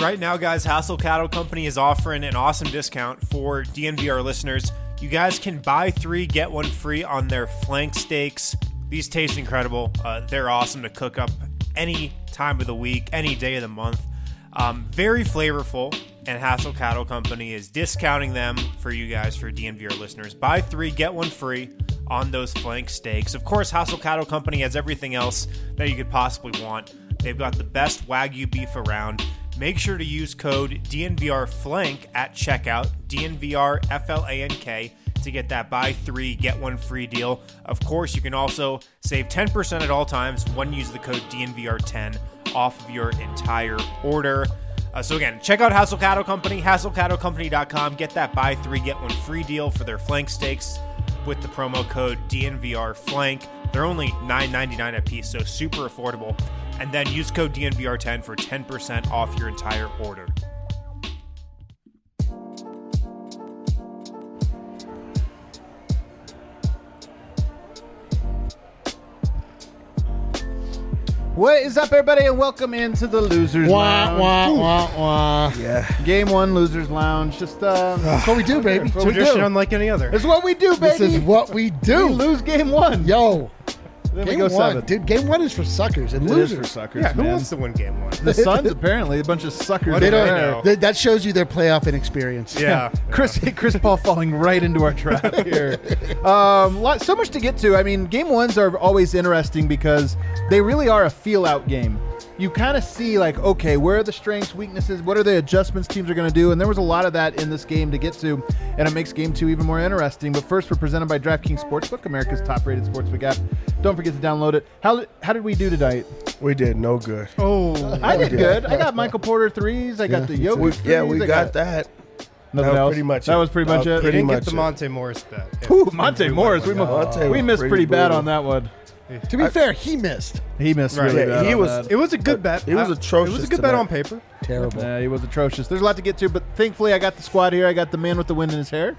Right now, guys, Hassel Cattle Company is offering an awesome discount for DNVR listeners. You guys can buy 3, get 1 free on their flank steaks. These taste incredible. They're awesome to cook up any time of the week, any day of the month. Very flavorful, and Hassel Cattle Company is discounting them for you guys, for DNVR listeners. Buy 3, get 1 free on those flank steaks. Of course, Hassel Cattle Company has everything else that you could possibly want. They've got the best Wagyu beef around. Make sure to use code DNVRFLANK at checkout, DNVRFLANK, to get that buy 3, get 1 free deal. Of course, you can also save 10% at all times when you use the code DNVR10 off of your entire order. So again, check out Hassel Cattle Company, HassleCattleCompany.com. Get that buy 3, get 1 free deal for their flank steaks with the promo code DNVRFLANK. They're only $9.99 a piece, so super affordable. And then use code DNVR10 for 10% off your entire order. What is up, everybody, and welcome into the Losers Lounge. Yeah. Game 1, Losers Lounge. Just That's what we do, baby. That's what we Tradition do. unlike any other. It's what we do, baby. This is what we do. We lose Game 1. Yo. Then Game we go 1. 7. Dude, game 1 is for suckers and It is for losers. suckers, Yeah, who man. wants to win game 1? The Suns, apparently, a bunch of suckers. What They do I don't. know? That shows you their playoff inexperience. Yeah. Chris Paul falling right into our trap here. So much to get to. I mean, game 1s are always interesting because they really are a feel-out game. You kind of see, like, okay, where are the strengths, weaknesses, what are the adjustments teams are going to do? And there was a lot of that in this game to get to, and it makes game 2 even more interesting. But first, we're presented by DraftKings Sportsbook, America's top-rated sportsbook app. Don't forget to download it. How did we do tonight? We did no good. Oh, I did good. I got Michael Porter threes. I got the Jokic threes. We I got that. Nothing was else? pretty much That it. was pretty much That was it. pretty didn't get much the it. Monte Morris bet. Ooh, Monte Morris. We Monte missed was pretty bad brutal. on that one. To be fair, he missed. He missed Right. really Yeah, bad he on was- that. It was a good bet. It was atrocious It was a good bet tonight. on paper. Terrible. Yeah, he was atrocious. There's a lot to get to, but thankfully I got the squad here. I got the man with the wind in his hair.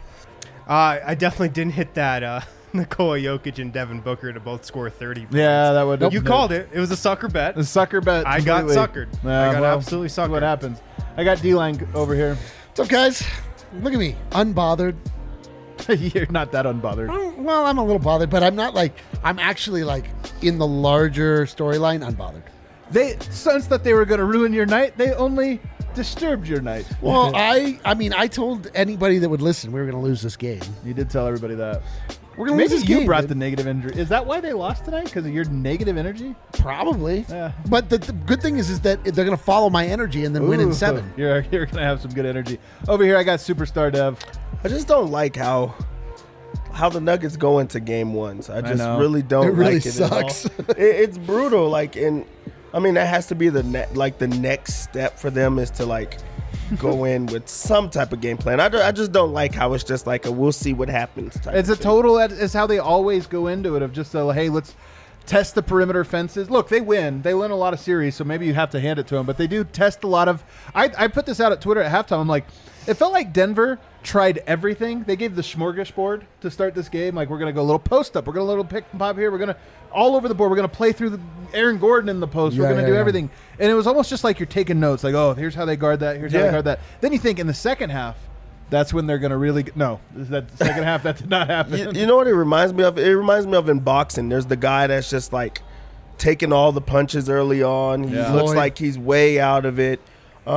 I definitely didn't hit that Nikola Jokic and Devin Booker to both score 30 points. Yeah, that would. You called it. It was a sucker bet. the sucker bet. I got completely. suckered. I got absolutely that's what suckered. happens. I got D-line over here. What's up, guys? Look at me. Unbothered. You're not that unbothered. Well, I'm a little bothered, but I'm not like, I'm actually like in the larger storyline, unbothered. They sensed that they were going to ruin your night. They only disturbed your night. Well, I told anybody that would listen we were going to lose this game. You did tell everybody that. We're going to lose Maybe this you game. brought dude. the negative energy. Is that why they lost tonight? Because of your negative energy? Probably. Yeah. But the good thing is that they're going to follow my energy and then win in Ooh, 7. You're going to have some good energy. Over here, I got Superstar Dev. I just don't like how the Nuggets go into game 1s. I just know. really don't It really like it at all. sucks. It's brutal. Like, that has to be the next step for them is to like go in with some type of game plan. I just don't like how it's just like we'll see what happens. Type It's of a thing. total. It's how they always go into it. Of just hey, let's test the perimeter fences. Look, they win. They win a lot of series, so maybe you have to hand it to them. But they do test a lot of. I put this out at Twitter at halftime. I'm like, it felt like Denver tried everything. They gave the smorgasbord to start this game. Like, we're gonna go a little post up. We're gonna a little pick and pop here. We're gonna all over the board. We're gonna play through the Aaron Gordon in the post. We're Yeah, gonna yeah, do yeah. everything. And it was almost just like you're taking notes. Like, oh, here's how they guard that. Here's how they Yeah. guard that. Then you think in the second half. That's when they're going to really no. Is that the second half? That did not happen. You know what it reminds me of? It reminds me of in boxing. There's the guy that's just like taking all the punches early on. He Yeah. looks Floyd. like he's way out of it.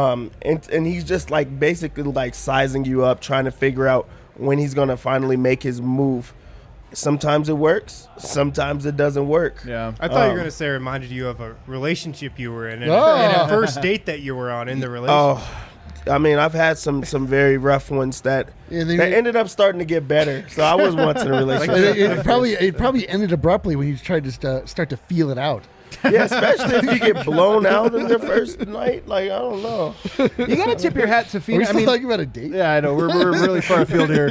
And he's just like basically like sizing you up, trying to figure out when he's going to finally make his move. Sometimes it works. Sometimes it doesn't work. Yeah. I thought you were going to say it reminded you of a relationship you were in and, Oh. and a first date that you were on in the relationship. Oh, I mean, I've had some very rough ones that And then that ended up starting to get better. So I was once in a But relationship. it probably ended abruptly when you tried to start to feel it out. Yeah, especially if you get blown out in the first night. Like, I don't know. You got to tip your hat to Are we Phoenix. I still mean, talking about a date? yeah, I know we're really far afield here.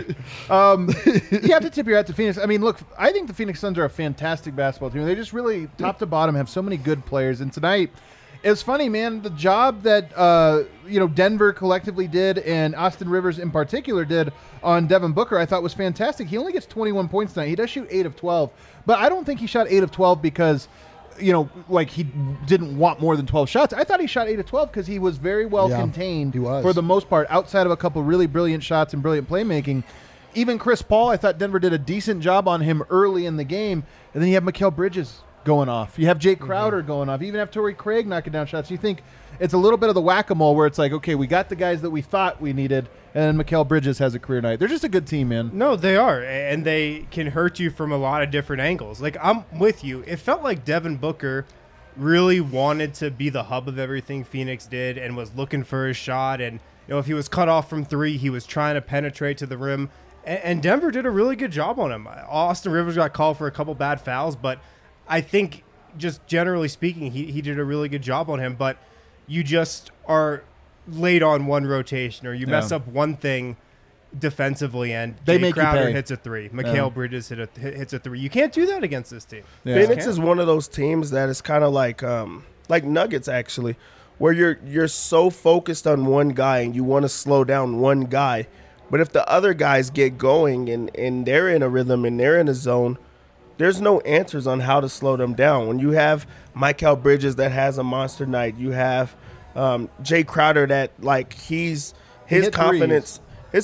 You have to tip your hat to Phoenix. I mean, look, I think the Phoenix Suns are a fantastic basketball team. They just really top to bottom have so many good players. And tonight, it's funny, man. The job that Denver collectively did and Austin Rivers in particular did on Devin Booker, I thought was fantastic. He only gets 21 points tonight. He does shoot 8 of 12, but I don't think he shot 8 of 12 because like he didn't want more than 12 shots. I thought he shot 8 of 12 because he was very well contained he was. for the most part, outside of a couple really brilliant shots and brilliant playmaking. Even Chris Paul, I thought Denver did a decent job on him early in the game. And then you have Mikal Bridges going off. You have Jake Crowder going off. You even have Torrey Craig knocking down shots. You think it's a little bit of the whack-a-mole where it's like, okay, we got the guys that we thought we needed, and then Mikal Bridges has a career night. They're just a good team, man. No, they are, and they can hurt you from a lot of different angles. Like, I'm with you. It felt like Devin Booker really wanted to be the hub of everything Phoenix did and was looking for his shot. And, if he was cut off from three, he was trying to penetrate to the rim. And Denver did a really good job on him. Austin Rivers got called for a couple bad fouls, but I think just generally speaking, he did a really good job on him. But you just are late on one rotation, or you mess up one thing defensively, and Jay Crowder hits a three. Mikal Bridges hits a three. You can't do that against this team. Yeah. Phoenix is one of those teams that is kind of like Nuggets, actually, where you're so focused on one guy and you want to slow down one guy. But if the other guys get going and they're in a rhythm and they're in a zone, there's no answers on how to slow them down. When you have Mikal Bridges that has a monster night, you have Jay Crowder that his confidence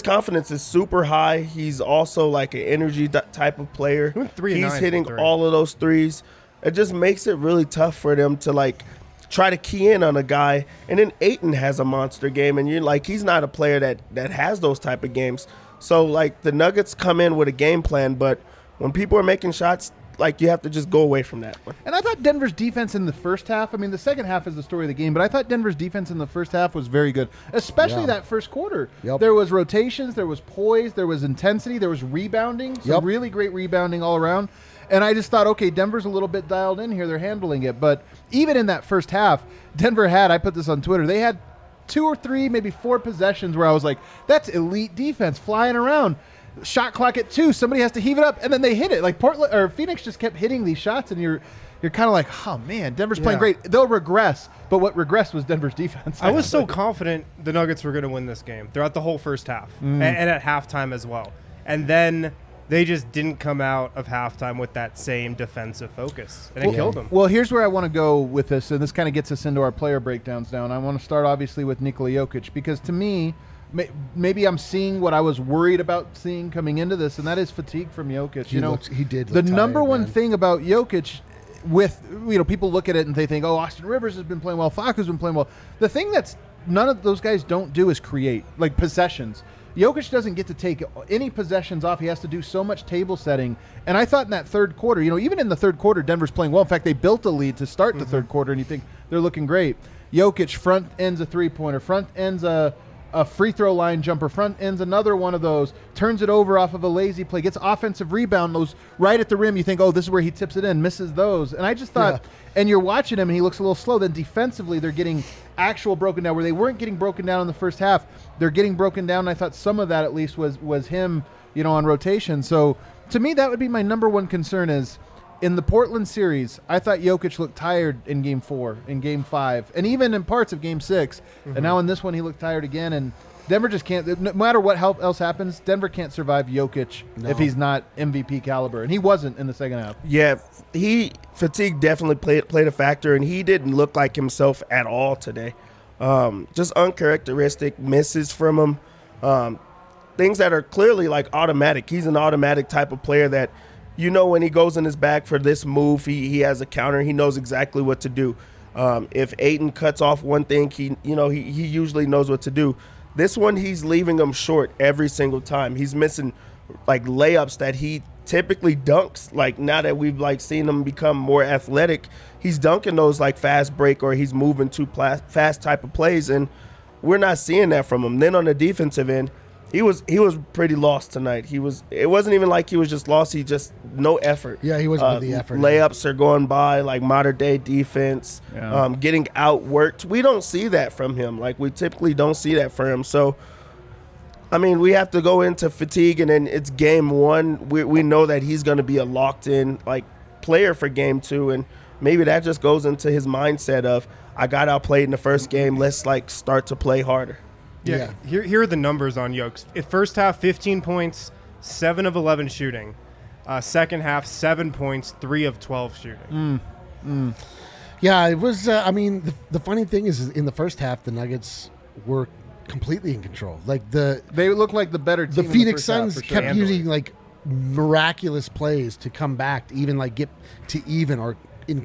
is super high. He's also like an energy type of player. He's hitting all of those threes. It just makes it really tough for them to try to key in on a guy. And then Ayton has a monster game, and you're like, he's not a player that has those type of games. So the Nuggets come in with a game plan, but when people are making shots, you have to just go away from that one. And I thought Denver's defense in the first half, the second half is the story of the game, but I thought Denver's defense in the first half was very good, especially that first quarter. Yep. There was rotations, there was poise, there was intensity, there was rebounding, some really great rebounding all around. And I just thought, okay, Denver's a little bit dialed in here. They're handling it. But even in that first half, Denver I put this on Twitter, they had 2 or 3, maybe 4 possessions where I was like, that's elite defense flying around. Shot clock at 2, somebody has to heave it up, and then they hit it. Portland or Phoenix just kept hitting these shots, and you're kind of like, oh man, Denver's playing great. They'll regress, but what regressed was Denver's defense. I was so confident the Nuggets were going to win this game throughout the whole first half, and at halftime as well. And then they just didn't come out of halftime with that same defensive focus, and it killed them. Well, here's where I want to go with this, and this kind of gets us into our player breakdowns now. And I want to start, obviously, with Nikola Jokic, because to me, maybe I'm seeing what I was worried about seeing coming into this, and that is fatigue from Jokic. He did look the tired, number one man. thing about Jokic, with people look at it and they think, oh, Austin Rivers has been playing well, Facu's been playing well. The thing that's none of those guys don't do is create possessions. Jokic doesn't get to take any possessions off. He has to do so much table setting. And I thought in that third quarter, even in the third quarter, Denver's playing well. In fact, they built a lead to start the third quarter, and you think they're looking great. Jokic front ends a three-pointer, front ends a free throw line jumper, front ends another one of those, turns it over off of a lazy play, gets offensive rebound, those right at the rim. You think, oh, this is where he tips it in, misses those. And I just thought, and you're watching him and he looks a little slow. Then defensively, they're getting actual broken down where they weren't getting broken down in the first half. They're getting broken down. And I thought some of that at least was him, on rotation. So to me, that would be my number one concern is, in the Portland series, I thought Jokic looked tired in Game 4, in Game 5, and even in parts of Game 6. And now in this one, he looked tired again. And Denver just can't, no matter what else happens, Denver can't survive Jokic if he's not MVP caliber. And he wasn't in the second half. Yeah, fatigue definitely played a factor, and he didn't look like himself at all today. Just uncharacteristic misses from him. Things that are clearly automatic. He's an automatic type of player that, when he goes in his bag for this move, he has a counter. He knows exactly what to do. If Ayton cuts off one thing, he usually knows what to do. This one, he's leaving him short every single time. He's missing layups that he typically dunks. Now that we've seen him become more athletic, he's dunking those fast break or he's moving too fast type of plays, and we're not seeing that from him. Then on the defensive end, He was pretty lost tonight. It wasn't even like he was just lost. He just no effort. Yeah, he wasn't with the effort. Layups are going by modern day defense. Yeah. Getting outworked. We don't see that from him. We typically don't see that from him. So, we have to go into fatigue, and then it's Game 1. We know that he's going to be a locked in player for Game 2, and maybe that just goes into his mindset of, I got outplayed in the first game. Let's start to play harder. Yeah. Here are the numbers on Jokes. First half, 15 points, 7 of 11 shooting. Second half, 7 points, 3 of 12 shooting. Yeah, it was. I mean, the funny thing is, in the first half, the Nuggets were completely in control. Like They look like the better team. the in Phoenix first half, Suns for sure. kept using like miraculous plays to come back to even like get to even or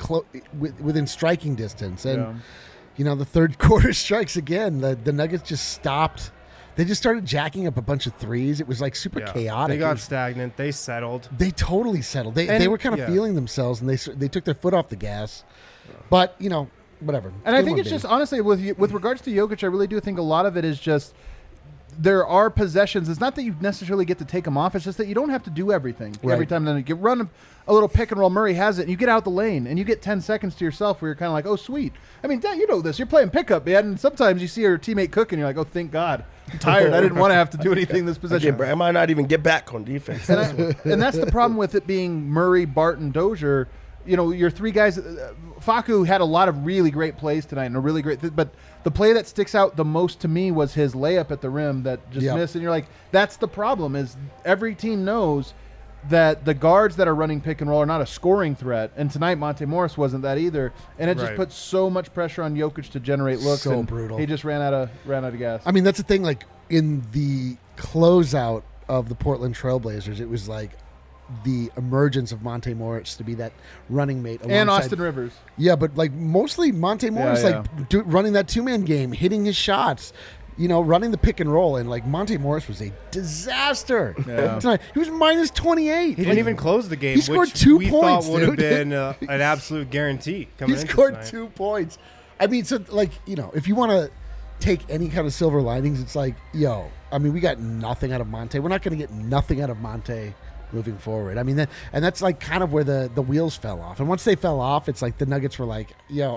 within striking distance. And the third quarter strikes again. The Nuggets just stopped. They just started jacking up a bunch of threes. It was like super chaotic. They got stagnant. They settled. They totally settled. They were kind of feeling themselves, and they took their foot off the gas. But whatever. And I think it's just honestly with regards to Jokic, I really do think a lot of it is just there are possessions. It's not that you necessarily get to take them off. It's just that you don't have to do everything every time. Then you run a little pick and roll. Murray has it, and you get out the lane, and you get 10 seconds to yourself where you're kind of like, oh, sweet. I mean, you know this. You're playing pickup, man. And sometimes you see your teammate cooking, you're like, oh, thank God. I'm tired. I didn't want to have to do anything this possession. I might not even get back on defense. And that's the problem with it being Murray, Barton, Dozier. Your three guys. Facu had a lot of really great plays tonight, and a really great. But the play that sticks out the most to me was his layup at the rim that just missed. And you're like, that's the problem. Is every team knows that the guards that are running pick and roll are not a scoring threat, and tonight Monte Morris wasn't that either. And it just puts so much pressure on Jokic to generate looks. So and brutal. He just ran out of gas. I mean, that's the thing. Like in the closeout of the Portland Trailblazers, it was like the emergence of Monte Morris to be that running mate and Austin Rivers. Yeah, but like mostly Monte Morris, running that 2-man game, hitting his shots, running the pick and roll, and like Monte Morris was a disaster tonight. He was minus 28. He didn't even close the game. He scored which 2 we points. Thought would have been an absolute guarantee. He scored 2 points. I mean, so like if you want to take any kind of silver linings, it's like, I mean, we got nothing out of Monte. We're not going to get nothing out of Monte moving forward. I mean, that's like kind of where the wheels fell off. And once they fell off, it's like the Nuggets were like,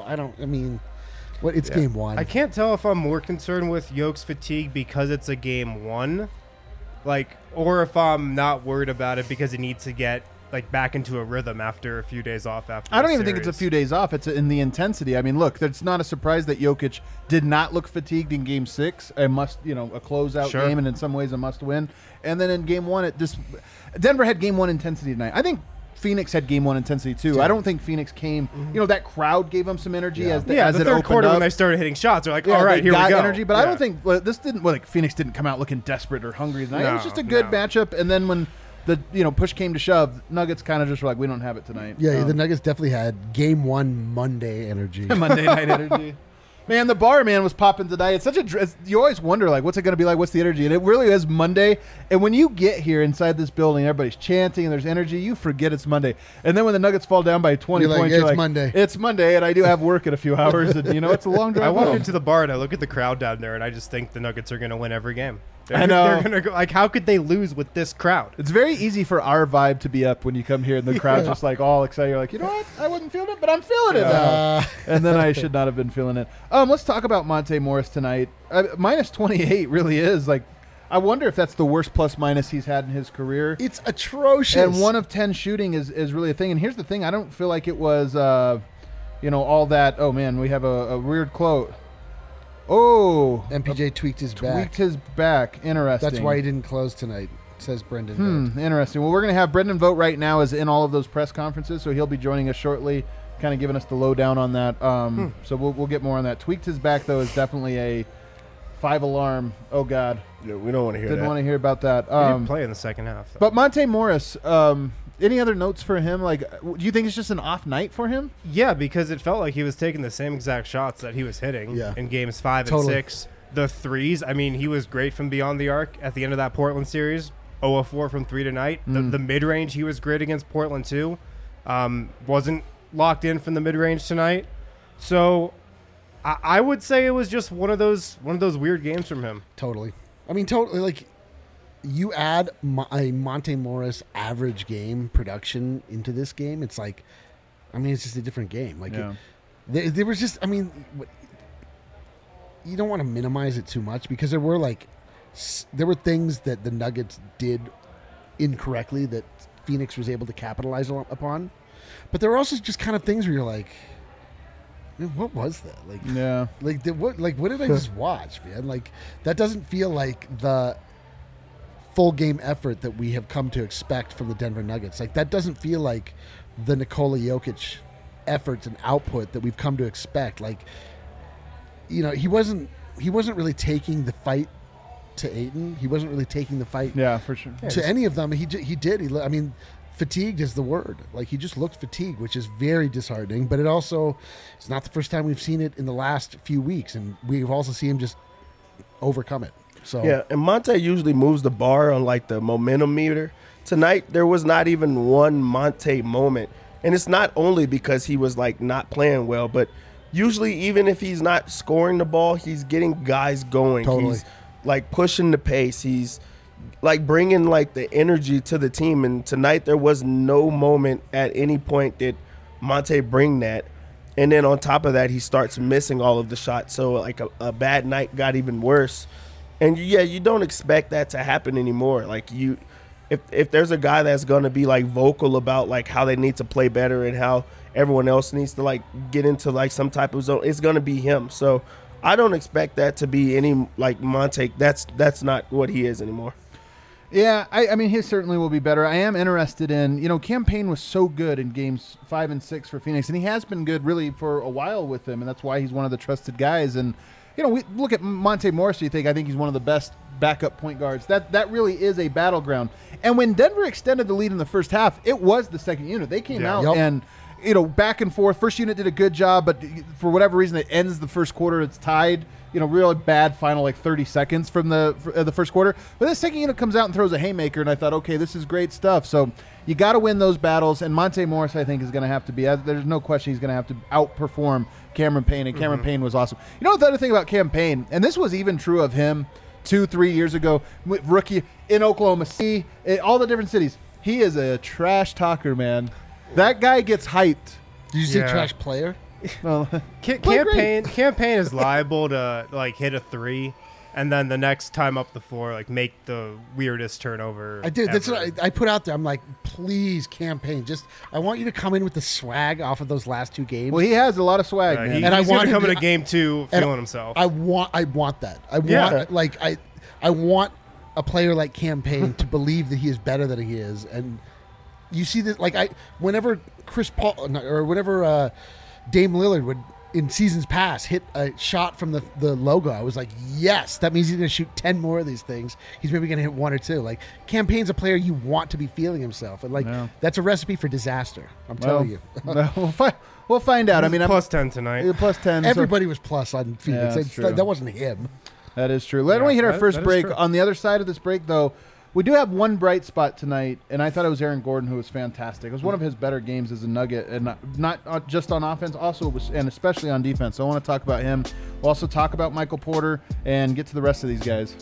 it's game one. I can't tell if I'm more concerned with Yoke's fatigue because it's a game one, or if I'm not worried about it because he needs to get back into a rhythm after a few days off. I don't even think it's a few days off. It's in the intensity. I mean, look, it's not a surprise that Jokic did not look fatigued in Game 6. A closeout game, and in some ways a must win. And then in Game 1, Denver had Game 1 intensity tonight. I think Phoenix had Game 1 intensity too. Yeah. I don't think Phoenix came. That crowd gave them some energy as the third quarter up. When they started hitting shots. They're like, all right, here we go. Energy, but I don't think this didn't. Phoenix didn't come out looking desperate or hungry tonight. It was just a good matchup. And then when the push came to shove, Nuggets kind of just were like, we don't have it tonight. Yeah, the Nuggets definitely had Game 1 Monday energy. Monday night energy. Man, the bar was popping tonight. It's such you always wonder what's it going to be like? What's the energy? And it really is Monday. And when you get here inside this building, everybody's chanting and there's energy. You forget it's Monday. And then when the Nuggets fall down by 20 points, you're like, Monday. It's Monday, and I do have work in a few hours, and it's a long drive. I walk into the bar and I look at the crowd down there, and I just think the Nuggets are going to win every game. I know. They're going to go. How could they lose with this crowd? It's very easy for our vibe to be up when you come here, and the crowd's just all excited. You're like, you know what? I wasn't feeling it, but I'm feeling it now. And then I should not have been feeling it. Let's talk about Monte Morris tonight. Minus 28 really is I wonder if that's the worst plus minus he's had in his career. It's atrocious. And 1 of 10 shooting is really a thing. And here's the thing: I don't feel like it was, all that. Oh man, we have a weird quote. Oh, MPJ tweaked his back. Interesting. That's why he didn't close tonight, says Brendan. Interesting. Well, we're going to have Brendan Vogt right now is in all of those press conferences, so he'll be joining us shortly, kind of giving us the lowdown on that. So we'll get more on that. Tweaked his back, though, is definitely a 5-alarm. Oh, God. Yeah, we don't want to hear that. Didn't want to hear about that. He didn't play in the second half, though. But Monte Morris, any other notes for him? Do you think it's just an off night for him? Yeah, because it felt like he was taking the same exact shots that he was hitting in games 5 and 6. The threes, I mean, he was great from beyond the arc at the end of that Portland series. 0 of 4 from 3 tonight. The mid-range, he was great against Portland, too. Wasn't locked in from the mid-range tonight. So I would say it was just one of those weird games from him. Totally. I mean, you add a Monte Morris average game production into this game, it's like, I mean, it's just a different game. There was just, I mean, you don't want to minimize it too much because there were things that the Nuggets did incorrectly that Phoenix was able to capitalize upon, but there were also just kind of things where you're like, man, what was that? What did I just watch, man? That doesn't feel like the full game effort that we have come to expect from the Denver Nuggets. That doesn't feel like the Nikola Jokic efforts and output that we've come to expect. Like, you know, he wasn't really taking the fight to Ayton. He wasn't really taking the fight for sure. to any of them. He did. I mean, fatigued is the word. Like, he just looked fatigued, which is very disheartening. But it's not the first time we've seen it in the last few weeks, and we've also seen him just overcome it. So yeah, and Monte usually moves the bar on like the momentum meter. Tonight there was not even one Monte moment, and it's not only because he was like not playing well, but usually even if he's not scoring the ball, he's getting guys going. Totally. He's like pushing the pace. He's like bringing like the energy to the team. And tonight there was no moment at any point that Monte bring that. And then on top of that, he starts missing all of the shots. So like a bad night got even worse. And yeah, you don't expect that to happen anymore. Like if there's a guy that's going to be like vocal about like how they need to play better and how everyone else needs to like get into like some type of zone, it's going to be him. So I don't expect that to be any like Monte. That's not what he is anymore. Yeah, I mean, he certainly will be better. I am interested in, Cam Payne was so good in games 5 and 6 for Phoenix, and he has been good really for a while with them, and that's why he's one of the trusted guys. And, we look at Monte Morris, I think he's one of the best backup point guards. That really is a battleground. And when Denver extended the lead in the first half, it was the second unit. They came out and, back and forth. First unit did a good job, but for whatever reason, it ends the first quarter. It's tied. Really bad final like 30 seconds from the first quarter. But the second unit comes out and throws a haymaker, and I thought, okay, this is great stuff. So you got to win those battles, and Monte Morris, I think, is going to have to be. There's no question he's going to have to outperform Cameron Payne, and Cameron Payne was awesome. The other thing about Cam Payne, and this was even true of him 2-3 years ago, rookie in Oklahoma City, all the different cities. He is a trash talker, man. That guy gets hyped. Did you say trash player? Well, Cam Payne is liable to like hit a 3, and then the next time up the floor, like make the weirdest turnover. I did. Ever. That's what I put out there. I'm like, please, Cam Payne, I want you to come in with the swag off of those last 2 games. Well, he has a lot of swag, man. And he's going to come into game 2 feeling himself. I want that. I want a player like Cam Payne to believe that he is better than he is. And you see this, whenever Chris Paul or whenever Dame Lillard would, in seasons past, hit a shot from the logo, I was like, yes, that means he's going to shoot 10 more of these things. He's maybe going to hit 1 or 2. Like, Cam Payne's a player you want to be feeling himself. And, that's a recipe for disaster. I'm telling you. We'll find out. I mean, plus 10 tonight. Plus 10. Everybody was plus on Phoenix. That wasn't him. That is true. Let me hit our first break. On the other side of this break, though, we do have one bright spot tonight, and I thought it was Aaron Gordon, who was fantastic. It was one of his better games as a Nugget, and not just on offense, and especially on defense. So I want to talk about him. We'll also talk about Michael Porter and get to the rest of these guys.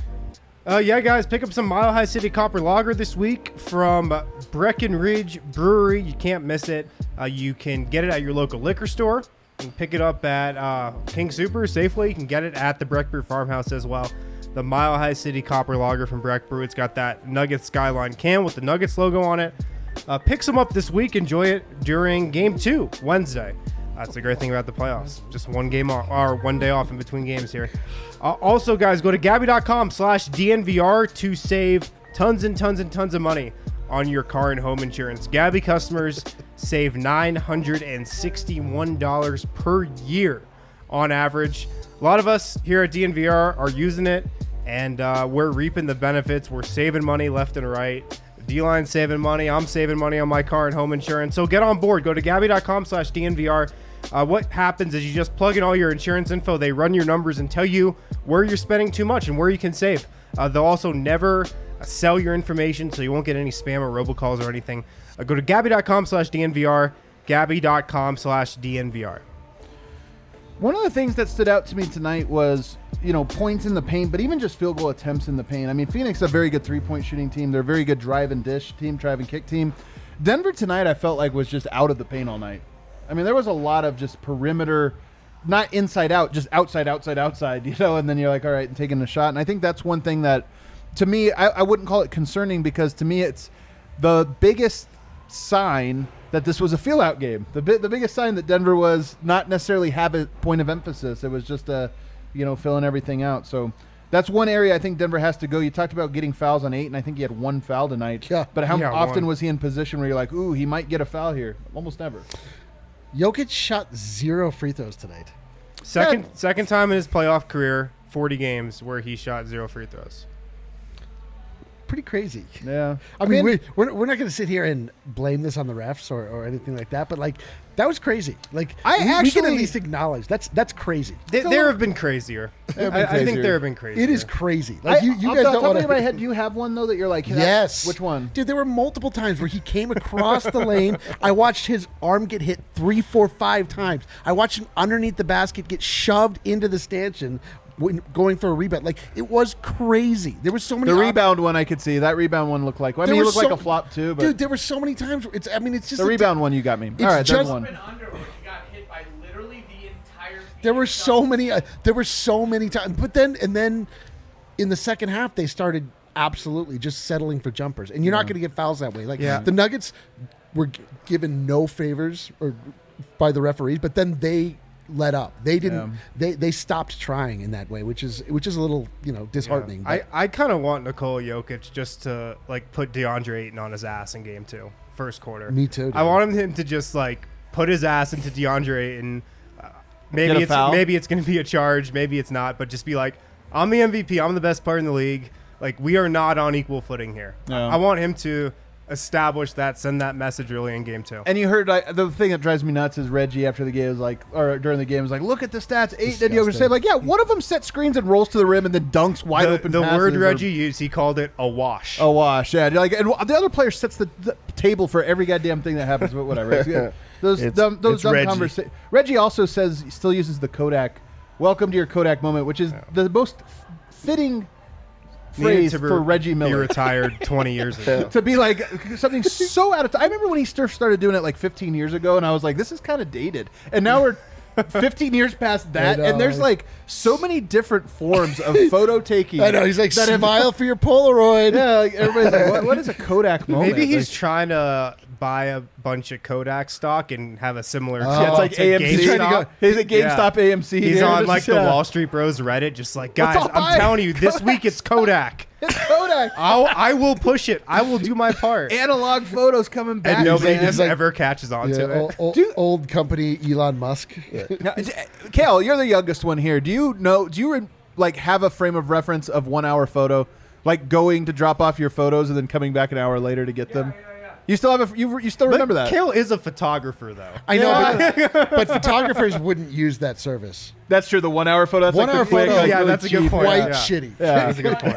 Guys, pick up some Mile High City Copper Lager this week from Breckenridge Brewery. You can't miss it. You can get it at your local liquor store. You can pick it up at King Super, Safeway. You can get it at the Breck Brew Farmhouse as well. The Mile High City Copper Lager from Breck Brew. It's got that Nuggets Skyline can with the Nuggets logo on it. Pick some up this week. Enjoy it during Game 2, Wednesday. That's the great thing about the playoffs. Just one game or 1 day off in between games here. Also, guys, go to Gabby.com/DNVR to save tons and tons and tons of money on your car and home insurance. Gabby customers save $961 per year on average. A lot of us here at DNVR are using it, and we're reaping the benefits. We're saving money left and right. D-Line's saving money. I'm saving money on my car and home insurance. So get on board. Go to Gabby.com/DNVR. What happens is you just plug in all your insurance info. They run your numbers and tell you where you're spending too much and where you can save. They'll also never sell your information, so you won't get any spam or robocalls or anything. Go to Gabby.com/DNVR. Gabby.com/DNVR. One of the things that stood out to me tonight was, points in the paint, but even just field goal attempts in the paint. I mean, Phoenix is a very good three-point shooting team. They're a very good drive and dish team, drive and kick team. Denver tonight, I felt like, was just out of the paint all night. I mean, there was a lot of just perimeter, not inside out, just outside, and then you're like, all right, and taking a shot. And I think that's one thing that, to me, I wouldn't call it concerning, because to me it's the biggest sign that this was a feel-out game. The biggest sign that Denver was not necessarily have a point of emphasis. It was just filling everything out. So that's one area I think Denver has to go. You talked about getting fouls on 8, and I think he had 1 foul tonight. Yeah. But how often was he in position where you're like, ooh, he might get a foul here? Almost never. Jokic shot 0 free throws tonight. Second time in his playoff career, 40 games where he shot 0 free throws. Pretty crazy. Yeah. I mean, we're not going to sit here and blame this on the refs or anything like that, but like that was crazy. Like we can actually- at least acknowledge that's crazy. There have been crazier. I think there have been crazier. It is crazy. Like you guys don't want in my to. head. Do you have one though that you're like? Yes. Which one? Dude, there were multiple times where he came across the lane. I watched his arm get hit 3, 4, 5 times. I watched him underneath the basket get shoved into the stanchion when going for a rebound. Like, it was crazy. There were so many. The rebound one I could see. That rebound one looked like. I mean, it looked like a flop too. But dude, there were so many times. It's just the rebound one you got me. All right, just- there's one. There were so many. There were so many times. But then in the second half, they started absolutely just settling for jumpers, and you're not going to get fouls that way. Like the Nuggets were given no favors by the referees, but then they let up. They didn't. They stopped trying in that way, which is a little disheartening. Yeah. I kind of want Nikola Jokic just to like put DeAndre Ayton on his ass in game 2, first quarter. Me too, dude. I want him to just like put his ass into DeAndre Ayton. Get a foul. Maybe it's going to be a charge, maybe it's not, but just be like, I'm the MVP, I'm the best player in the league. Like, we are not on equal footing here. No. I want him to establish that, send that message early in game 2. And you heard the thing that drives me nuts is Reggie after the game was like, or during the game was like, look at the stats. 8 and Jokic said like, yeah, one of them set screens and rolls to the rim and then dunks wide open. The passes word or- Reggie used, he called it a wash. A wash, yeah. Like, and the other player sets the table for every goddamn thing that happens, but whatever. It's, those dumb Reggie. conversations. Reggie also still uses the Kodak. Welcome to your Kodak moment, which is the most fitting phrase for Reggie He Miller. retired 20 years ago. To be like something so out of time. I remember when he started doing it like 15 years ago, and I was like, this is kind of dated. And now we're 15 years past that, I know. and there's like so many different forms of photo taking. I know. He's like, that have- smile for your Polaroid. Yeah, like everybody's like, what is a Kodak moment? Maybe he's Like, trying to buy a bunch of Kodak stock and have a similar. yeah, it's like to AMC. He's trying to GameStop. go. He's at GameStop AMC. He's here. on Just, like the Wall Street Bros Reddit, just like, guys, all buy? I'm telling you, this week it's Kodak. It's Kodak. I will push it. I will do my part. Analog photos coming back. And nobody He's just like- ever catches on to it. Old company Elon Musk. Now, Kale, you're the youngest one here. Do you like have a frame of reference of 1 hour photo, like going to drop off your photos and then coming back an hour later to get them? You still have you still remember that? Kale is a photographer, though. I know, but photographers wouldn't use that service. That's true. The 1 hour photo. That's 1 like hour the quick, photo, like, yeah, really that's a good cheap. point. Quite Yeah. shitty. Yeah. That's a good point.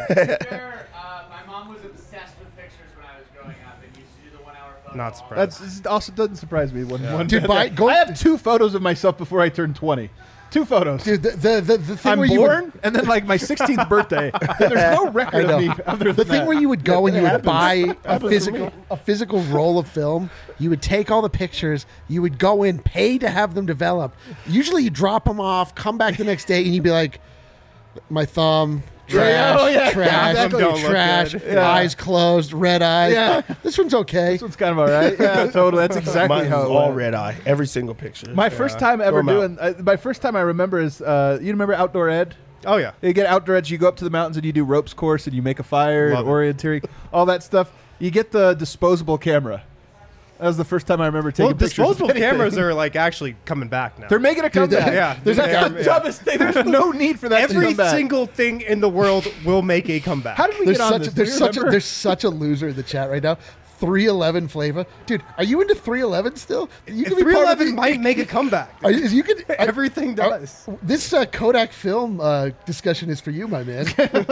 My mom was obsessed with pictures when I was growing up and used to do the 1 hour photo. Not surprised. That also doesn't surprise me. One Dude, bit. go- I have 2 photos of myself before I turned 20. 2 photos. Dude, the thing I'm where you born, would, and then like my 16th birthday. There's no record of me other than the thing that. where you would go and you would happens. buy a Happens to me. physical roll of film. You would take all the pictures. You would go in, pay to have them developed. Usually, you drop them off, come back the next day, and you'd be like, "My thumb, trash, oh, yeah. trash, Exactly. Don't look trash, good. Yeah. eyes closed, red eyes. Yeah. This one's okay." This one's kind of all right. Yeah, totally. That's exactly Mine how was it all went. red eye. Every single picture. My first time ever Throw 'em doing. My first time I remember is you remember Outdoor Ed. Oh yeah. You get outdoor edge, you go up to the mountains and you do ropes course and you make a fire Love and it. orienteering, all that stuff. You get the disposable camera. That was the first time I remember taking Well, pictures. disposable of anything. cameras are like actually coming back now. They're making a comeback. yeah. There's Yeah. the dumbest thing. There's no need for that to Every come back. single thing in the world will make a comeback. How did we There's get on such this? there's Do you such remember? there's such a loser in the chat right now. 311 flavor, dude. Are you into 311 still? You can be part of 311 the- might make a comeback. You could Everything does. This Kodak film discussion is for you, my man.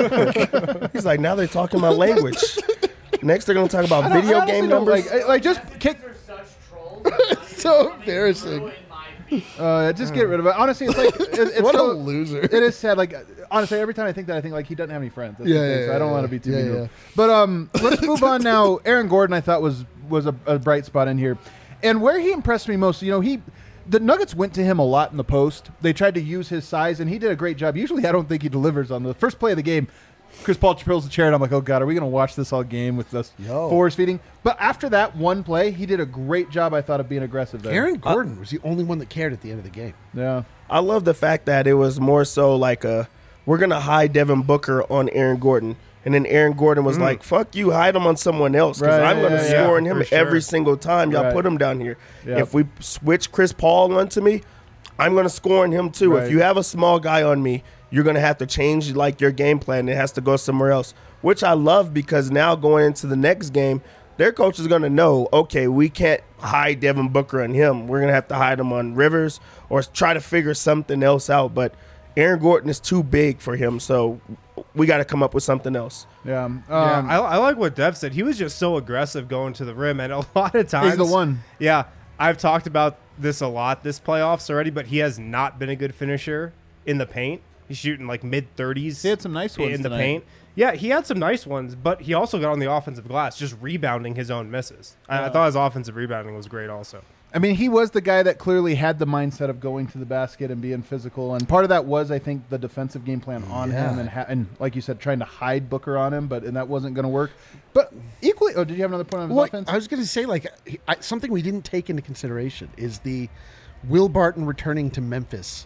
He's like, now they're talking my language. Next, they're gonna talk about I video honestly game don't numbers. like just kick. They're such trolls. So embarrassing. Ruin my feed. Just get rid of it. Honestly, it's like it's What a so- loser. It is sad. Like honestly, every time I think that, I think like he doesn't have any friends. That's the Yeah, thing, yeah, so I don't yeah, want to be too yeah, mean. to yeah. him. But let's move on now. Aaron Gordon, I thought was a bright spot in here, and where he impressed me most. The Nuggets went to him a lot in the post. They tried to use his size, and he did a great job. Usually, I don't think he delivers on the first play of the game. Chris Paul pulls the chair, and I'm like, oh, God, are we going to watch this all game with this force feeding? But after that one play, he did a great job, I thought, of being aggressive there. Aaron Gordon was the only one that cared at the end of the game. Yeah. I love the fact that it was more so like we're gonna hide Devin Booker on Aaron Gordon. And then Aaron Gordon was like, fuck you, hide him on someone else because Right, I'm going to score on him for sure. every single time. Y'all Right. put him down here. Yep. If we switch Chris Paul onto me, I'm going to score on him too. Right. If you have a small guy on me, you're going to have to change like your game plan. It has to go somewhere else, which I love because now going into the next game, their coach is going to know, okay, we can't hide Devin Booker on him. We're going to have to hide him on Rivers or try to figure something else out. But Aaron Gordon is too big for him, so we got to come up with something else. Yeah. I like what Dev said. He was just so aggressive going to the rim, and a lot of times He's the one. Yeah, I've talked about this a lot this playoffs already, but he has not been a good finisher in the paint. He's shooting like mid-30s. He had some nice ones in the tonight. paint. Yeah, he had some nice ones, but he also got on the offensive glass, just rebounding his own misses. I thought his offensive rebounding was great also. I mean, he was the guy that clearly had the mindset of going to the basket and being physical, and part of that was, I think, the defensive game plan on him, and like you said, trying to hide Booker on him, and that wasn't going to work. But equally, did you have another point on his offense? I was going to say, something we didn't take into consideration is the Will Barton returning to Memphis,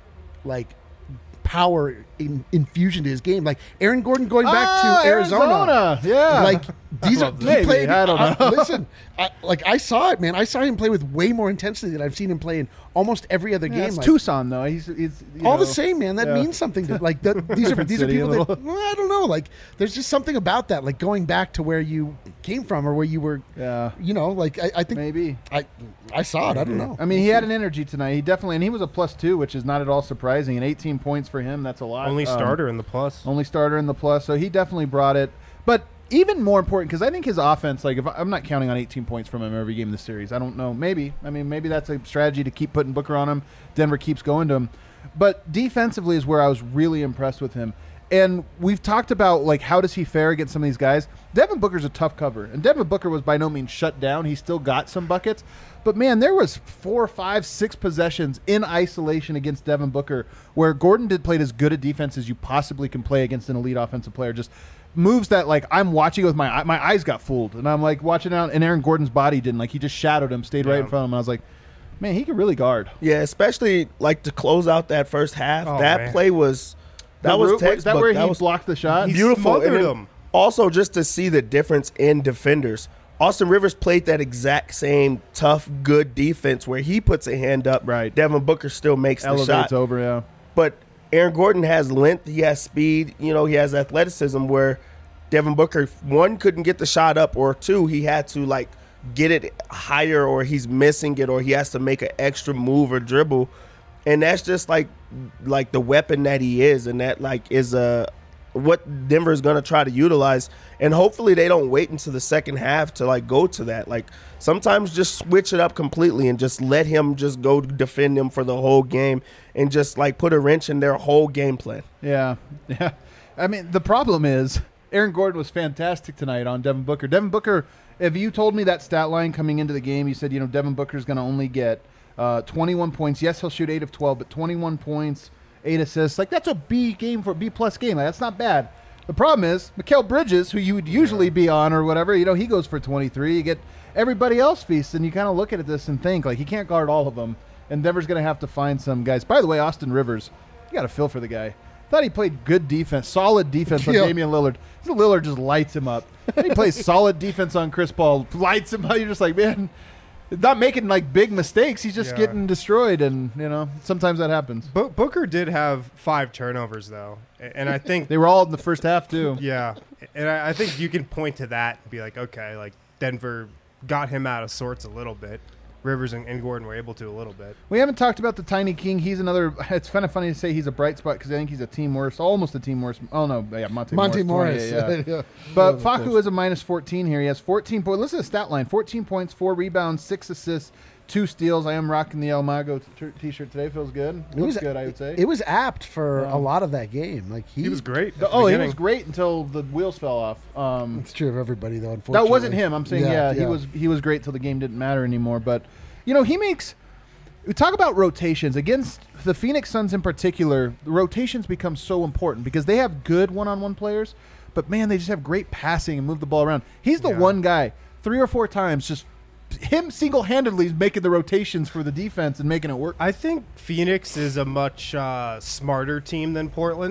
power infusion to his game. Like Aaron Gordon going back to Arizona. Yeah. Like these are Maybe, played. I don't know. Listen, I saw it, man. I saw him play with way more intensity than I've seen him play in almost every other game. It's Tucson, though. He's all the same, man. That means something to these are Different these are city, people a that I don't know. Like there's just something about that, like going back to where you came from or where you were. Yeah. I think Maybe. I saw it. I don't know. I mean, he had an energy tonight. He definitely, and he was a +2, which is not at all surprising. And 18 points for him, that's a lot. Only starter in the plus. Only starter in the plus, so he definitely brought it. But even more important, because I think his offense, if I'm not counting on 18 points from him every game in the series. I don't know. Maybe. I mean, maybe that's a strategy to keep putting Booker on him. Denver keeps going to him. But defensively is where I was really impressed with him. And we've talked about, how does he fare against some of these guys? Devin Booker's a tough cover. And Devin Booker was by no means shut down. He still got some buckets. But, man, there was 4, 5, 6 possessions in isolation against Devin Booker where Gordon did play as good a defense as you possibly can play against an elite offensive player. Just moves that, I'm watching with my eyes got fooled. And I'm, watching out, and Aaron Gordon's body didn't. He just shadowed him, stayed right in front of him. And I was like, man, he can really guard. Yeah, especially, to close out that first half. Play was – that was textbook. Is that where that he was blocked the shot? beautiful. smothered And then him. Also, just to see the difference in defenders. Austin Rivers played that exact same tough, good defense where he puts a hand up. Right. Devin Booker still makes Elevates the shot. over, yeah. But Aaron Gordon has length. He has speed. He has athleticism where Devin Booker, one, couldn't get the shot up, or two, he had to, get it higher, or he's missing it, or he has to make an extra move or dribble. And that's just like the weapon that he is, and that is what Denver is going to try to utilize. And hopefully they don't wait until the second half to go to that. Sometimes just switch it up completely and just let him just go defend them for the whole game and just put a wrench in their whole game plan. Yeah. I mean, the problem is Aaron Gordon was fantastic tonight on Devin Booker. Devin Booker, if you told me that stat line coming into the game, you said, Devin Booker's going to only get 21 points. Yes, he'll shoot 8 of 12, but 21 points, 8 assists. that's a B game for a B-plus game. That's not bad. The problem is Mikal Bridges, who you would usually be on or whatever, he goes for 23. You get everybody else feasts, and you kind of look at this and think, he can't guard all of them, and Denver's going to have to find some guys. By the way, Austin Rivers, you got a feel for the guy. Thought he played good defense, solid defense on Damian Lillard. Lillard just lights him up. He plays solid defense on Chris Paul, lights him up. You're just like, man, not making big mistakes. He's just getting destroyed, and sometimes that happens. Booker did have 5 turnovers though, and I think They were all in the first half too. yeah, and I think you can point to that and be like, okay, Denver got him out of sorts a little bit. Rivers and Gordon were able to a little bit. We haven't talked about the Tiny King. He's another. It's kind of funny to say he's a bright spot because I think he's a team worst, almost a team worst. Oh no, yeah, Monte Morris. 20, yeah. Yeah. But Facu is a -14 here. He has 14 points. Listen to the stat line: 14 points, 4 rebounds, 6 assists, 2 steals. I am rocking the El Mago t-shirt today. Feels good. Looks good, I would say. It was apt for a lot of that game. He was great. He was great until the wheels fell off. It's true of everybody though. Unfortunately, That wasn't him. I'm saying, he was great till the game didn't matter anymore. But he makes. We talk about rotations against the Phoenix Suns in particular. The rotations become so important because they have good one-on-one players, but man, they just have great passing and move the ball around. He's the one guy 3 or 4 times just. Him single-handedly is making the rotations for the defense and making it work. I think Phoenix is a much smarter team than Portland.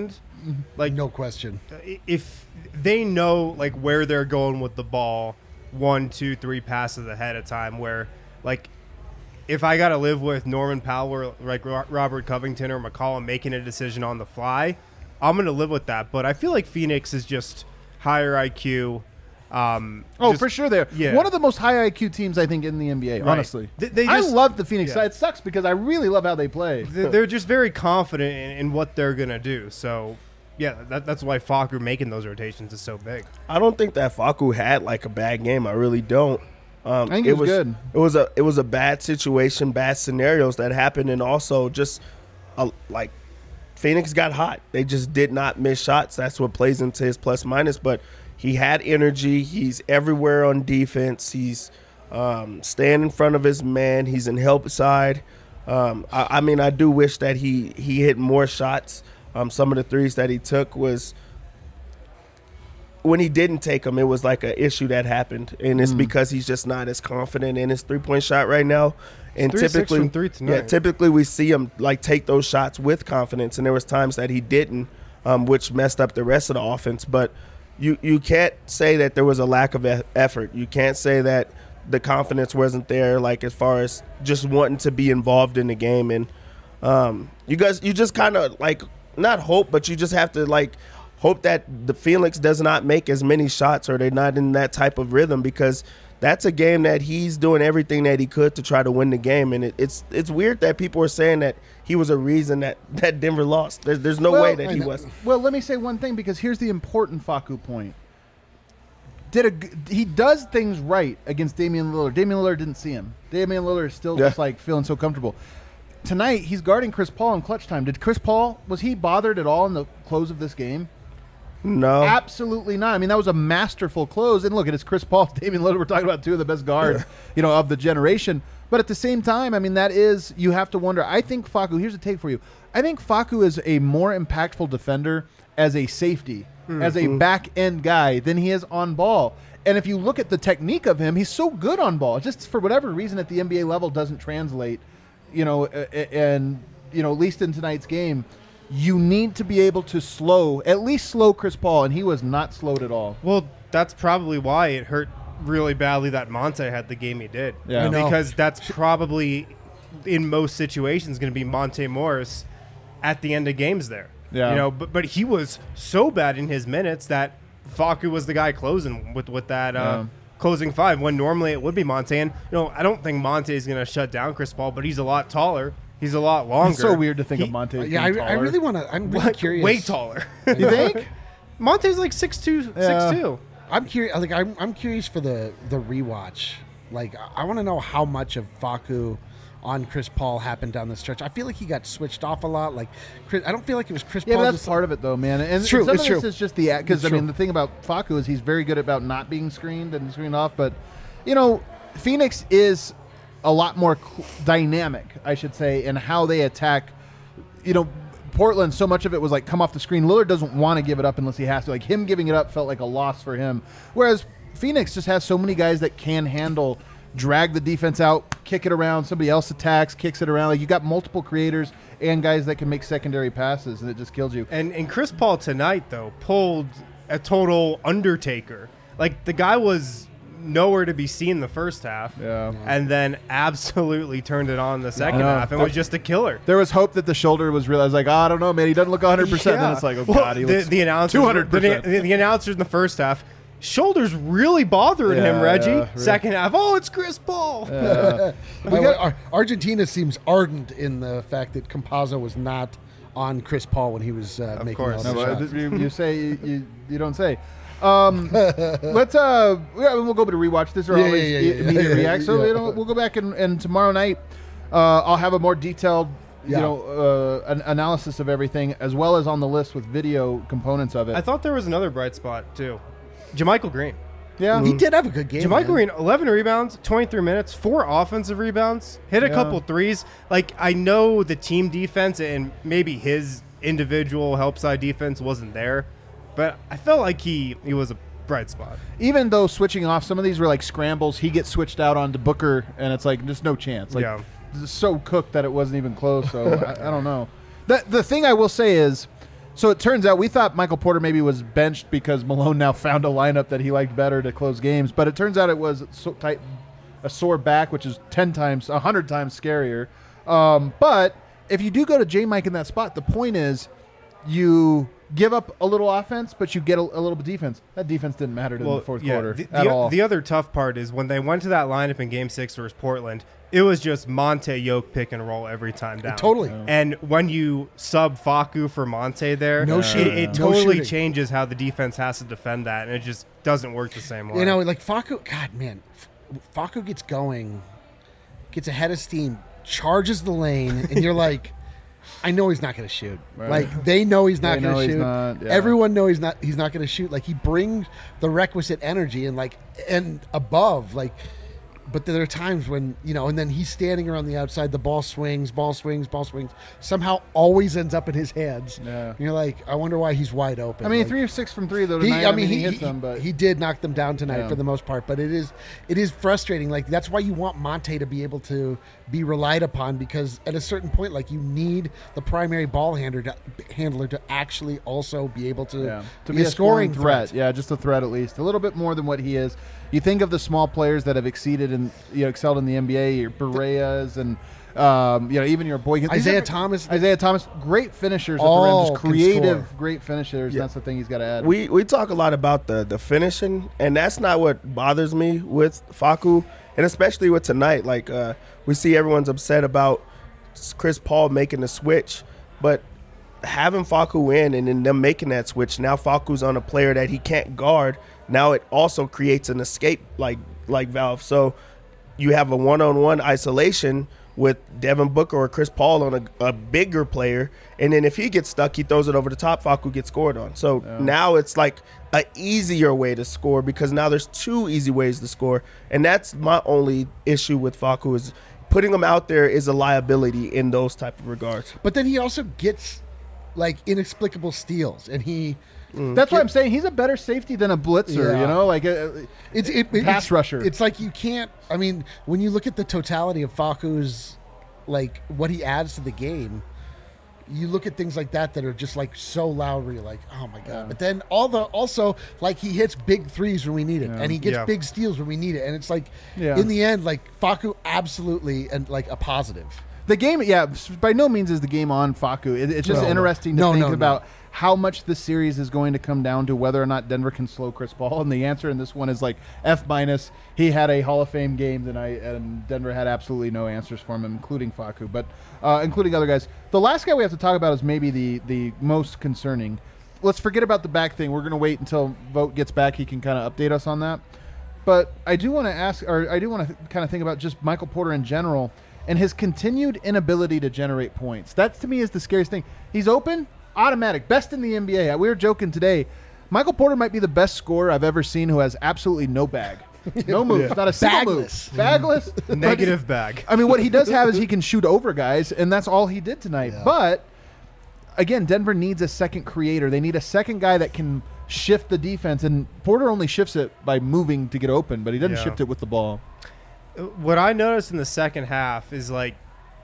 Like, No question. if they know like where they're going with the ball 1, 2, 3 passes ahead of time, where like if I got to live with Norman Powell or like Robert Covington or McCollum making a decision on the fly, I'm going to live with that. But I feel like Phoenix is just higher IQ. For sure they're one of the most high IQ teams I think in the NBA, Right. honestly. I love the Phoenix yeah. side. It sucks because I really love how they play. They're just very confident in what they're going to do. So, yeah, that's why Facu making those rotations is so big. I don't think that Facu had like a bad game. I really don't. I think it was good. It was a bad situation, bad scenarios that happened, and also just like Phoenix got hot. They just did not miss shots. That's what plays into his plus minus. But he had energy. He's everywhere on defense. He's staying in front of his man. He's in help side. I mean, I do wish that he hit more shots. Some of the threes that he took was when he didn't take them, it was like an issue that happened, and it's because he's just not as confident in his 3-point shot right now. And 3-6 from 3 tonight. typically we see him like take those shots with confidence, and there was times that he didn't, which messed up the rest of the offense. But you can't say that there was a lack of effort. You can't say that the confidence wasn't there, like as far as just wanting to be involved in the game. And you just kind of like not hope, but you just have to like hope that the Phoenix does not make as many shots, or they're not in that type of rhythm, because that's a game that he's doing everything that he could to try to win the game. And it's weird that people are saying that he was a reason that Denver lost. There's no way that he was. Well, let me say one thing, because here's the important Facu point. He does things right against Damian Lillard. Damian Lillard didn't see him. Damian Lillard is still just like feeling so comfortable. Tonight, he's guarding Chris Paul in clutch time. Did Chris Paul, was he bothered at all in the close of this game? No. Absolutely not. I mean, that was a masterful close. And look, it's Chris Paul, Damian Lillard. We're talking about two of the best guards, of the generation. But at the same time, I mean, you have to wonder. I think Facu, here's a take for you. I think Facu is a more impactful defender as a safety, as a back-end guy than he is on ball. And if you look at the technique of him, he's so good on ball. Just for whatever reason at the NBA level doesn't translate, at least in tonight's game. You need to be able to at least slow Chris Paul, and he was not slowed at all. Well, that's probably why it hurt really badly that Monte had the game he did. Yeah. Because that's probably, in most situations, going to be Monte Morris at the end of games there. Yeah. But he was so bad in his minutes that Facu was the guy closing with that closing five, when normally it would be Monte. And, I don't think Monte is going to shut down Chris Paul, but he's a lot taller. He's a lot longer. It's so weird to think of Monte. I really want to. I'm really curious. Way taller. You think? Monte's like 6'2", 6'2". I'm curious. Like I'm curious for the rewatch. Like I want to know how much of Facu on Chris Paul happened down the stretch. I feel like he got switched off a lot. Like I don't feel like it was Chris Paul. Yeah, that's part of it though, man. And it's true. Some it's of true. this is just because the thing about Facu is he's very good about not being screened and screened off. But Phoenix is a lot more dynamic, I should say, in how they attack. Portland, so much of it was like come off the screen. Lillard doesn't want to give it up unless he has to. Like him giving it up felt like a loss for him. Whereas Phoenix just has so many guys that can handle, drag the defense out, kick it around. Somebody else attacks, kicks it around. Like you got multiple creators and guys that can make secondary passes, and it just kills you. And Chris Paul tonight, though, pulled a total Undertaker. Like the guy was nowhere to be seen the first half, and then absolutely turned it on the second half and was just a killer. There was hope that the shoulder was real. I was like, I don't know, man. He doesn't look 100%. Then it's like, God, he looks 200%. The announcers in the first half, shoulders really bothering him, Reggie. Really. Second half, it's Chris Paul. Argentina seems ardent in the fact that Campazzo was not on Chris Paul when he was making all the shots. You say you don't say. Let's we'll go to rewatch. These are always immediate reacts. So we'll go back and tomorrow night I'll have a more detailed an analysis of everything, as well as on the list with video components of it. I thought there was another bright spot too. JaMychal Green. Yeah, he did have a good game. JaMychal Green, 11 rebounds, 23 minutes, 4 offensive rebounds, hit a couple threes. Like, I know the team defense and maybe his individual help side defense wasn't there, but I felt like he was a bright spot. Even though switching off, some of these were like scrambles. He gets switched out onto Booker, and it's like just no chance. Like, it's so cooked that it wasn't even close. So I don't know. The thing I will say is, So it turns out we thought Michael Porter maybe was benched because Malone now found a lineup that he liked better to close games. But it turns out it was a sore back, which is 100 times scarier. But if you do go to J-Mike in that spot, the point is you give up a little offense, but you get a little bit defense. That defense didn't matter to them in the fourth quarter at all. The other tough part is when they went to that lineup in Game 6 versus Portland, it was just Monte Yoke pick and roll every time down. Totally. And when you sub Facu for Monte there, it totally changes how the defense has to defend that, and it just doesn't work the same way. Like Facu, God, man, Facu gets going, gets ahead of steam, charges the lane, and you're like, I know he's not going to shoot. Right. Like they know he's not going to shoot. Yeah. Everyone knows he's not going to shoot. Like he brings the requisite energy and above. Like, but there are times when and then he's standing around the outside. The ball swings. Somehow always ends up in his hands. Yeah. And you're like, I wonder why he's wide open. I mean, like, 3 of 6 from 3 though tonight. He hits them, but he did knock them down tonight for the most part. But it is frustrating. Like that's why you want Monte to be able to be relied upon, because at a certain point, like you need the primary ball handler to actually also be able to be a scoring threat. Yeah, just a threat at least, a little bit more than what he is. You think of the small players that have excelled in the NBA, your Bereas and even your boy Isaiah Thomas, great finishers at all the rim, just creative, great finishers. That's the thing he's got to add. We talk a lot about the finishing, and that's not what bothers me with Facu, and especially with tonight. Like we see everyone's upset about Chris Paul making the switch, but having Facu in and then them making that switch, now Facu's on a player that he can't guard. Now it also creates an escape like valve. So you have a one-on-one isolation with Devin Booker or Chris Paul on a bigger player, and then if he gets stuck, he throws it over the top. Facu gets scored on. So now it's like an easier way to score, because now there's 2 easy ways to score, and that's my only issue with Facu, is putting him out there is a liability in those type of regards. But then he also gets like inexplicable steals, and he. That's why I'm saying he's a better safety than a blitzer. It's pass rusher. It's like you can't. I mean, when you look at the totality of Facu's, like what he adds to the game, you look at things like that are just like so loud where you're like, oh my god. Yeah. But then also like he hits big threes when we need it, and he gets big steals when we need it, and it's like in the end, like Facu absolutely and like a positive. The game, by no means is the game on Facu. It's just interesting to think about how much the series is going to come down to whether or not Denver can slow Chris Paul. And the answer in this one is like F-. He had a Hall of Fame game tonight, and Denver had absolutely no answers for him, including Facu, but including other guys. The last guy we have to talk about is maybe the most concerning. Let's forget about the back thing. We're going to wait until Vogt gets back. He can kind of update us on that. But I do want to kind of think about just Michael Porter in general and his continued inability to generate points. That, to me, is the scariest thing. He's open, automatic, best in the NBA. We were joking today. Michael Porter might be the best scorer I've ever seen who has absolutely no bag. No moves, not a single move. Bagless. Negative bag. I mean, what he does have is he can shoot over guys, and that's all he did tonight. Yeah. But, again, Denver needs a second creator. They need a second guy that can shift the defense, and Porter only shifts it by moving to get open, but he doesn't shift it with the ball. What I noticed in the second half is like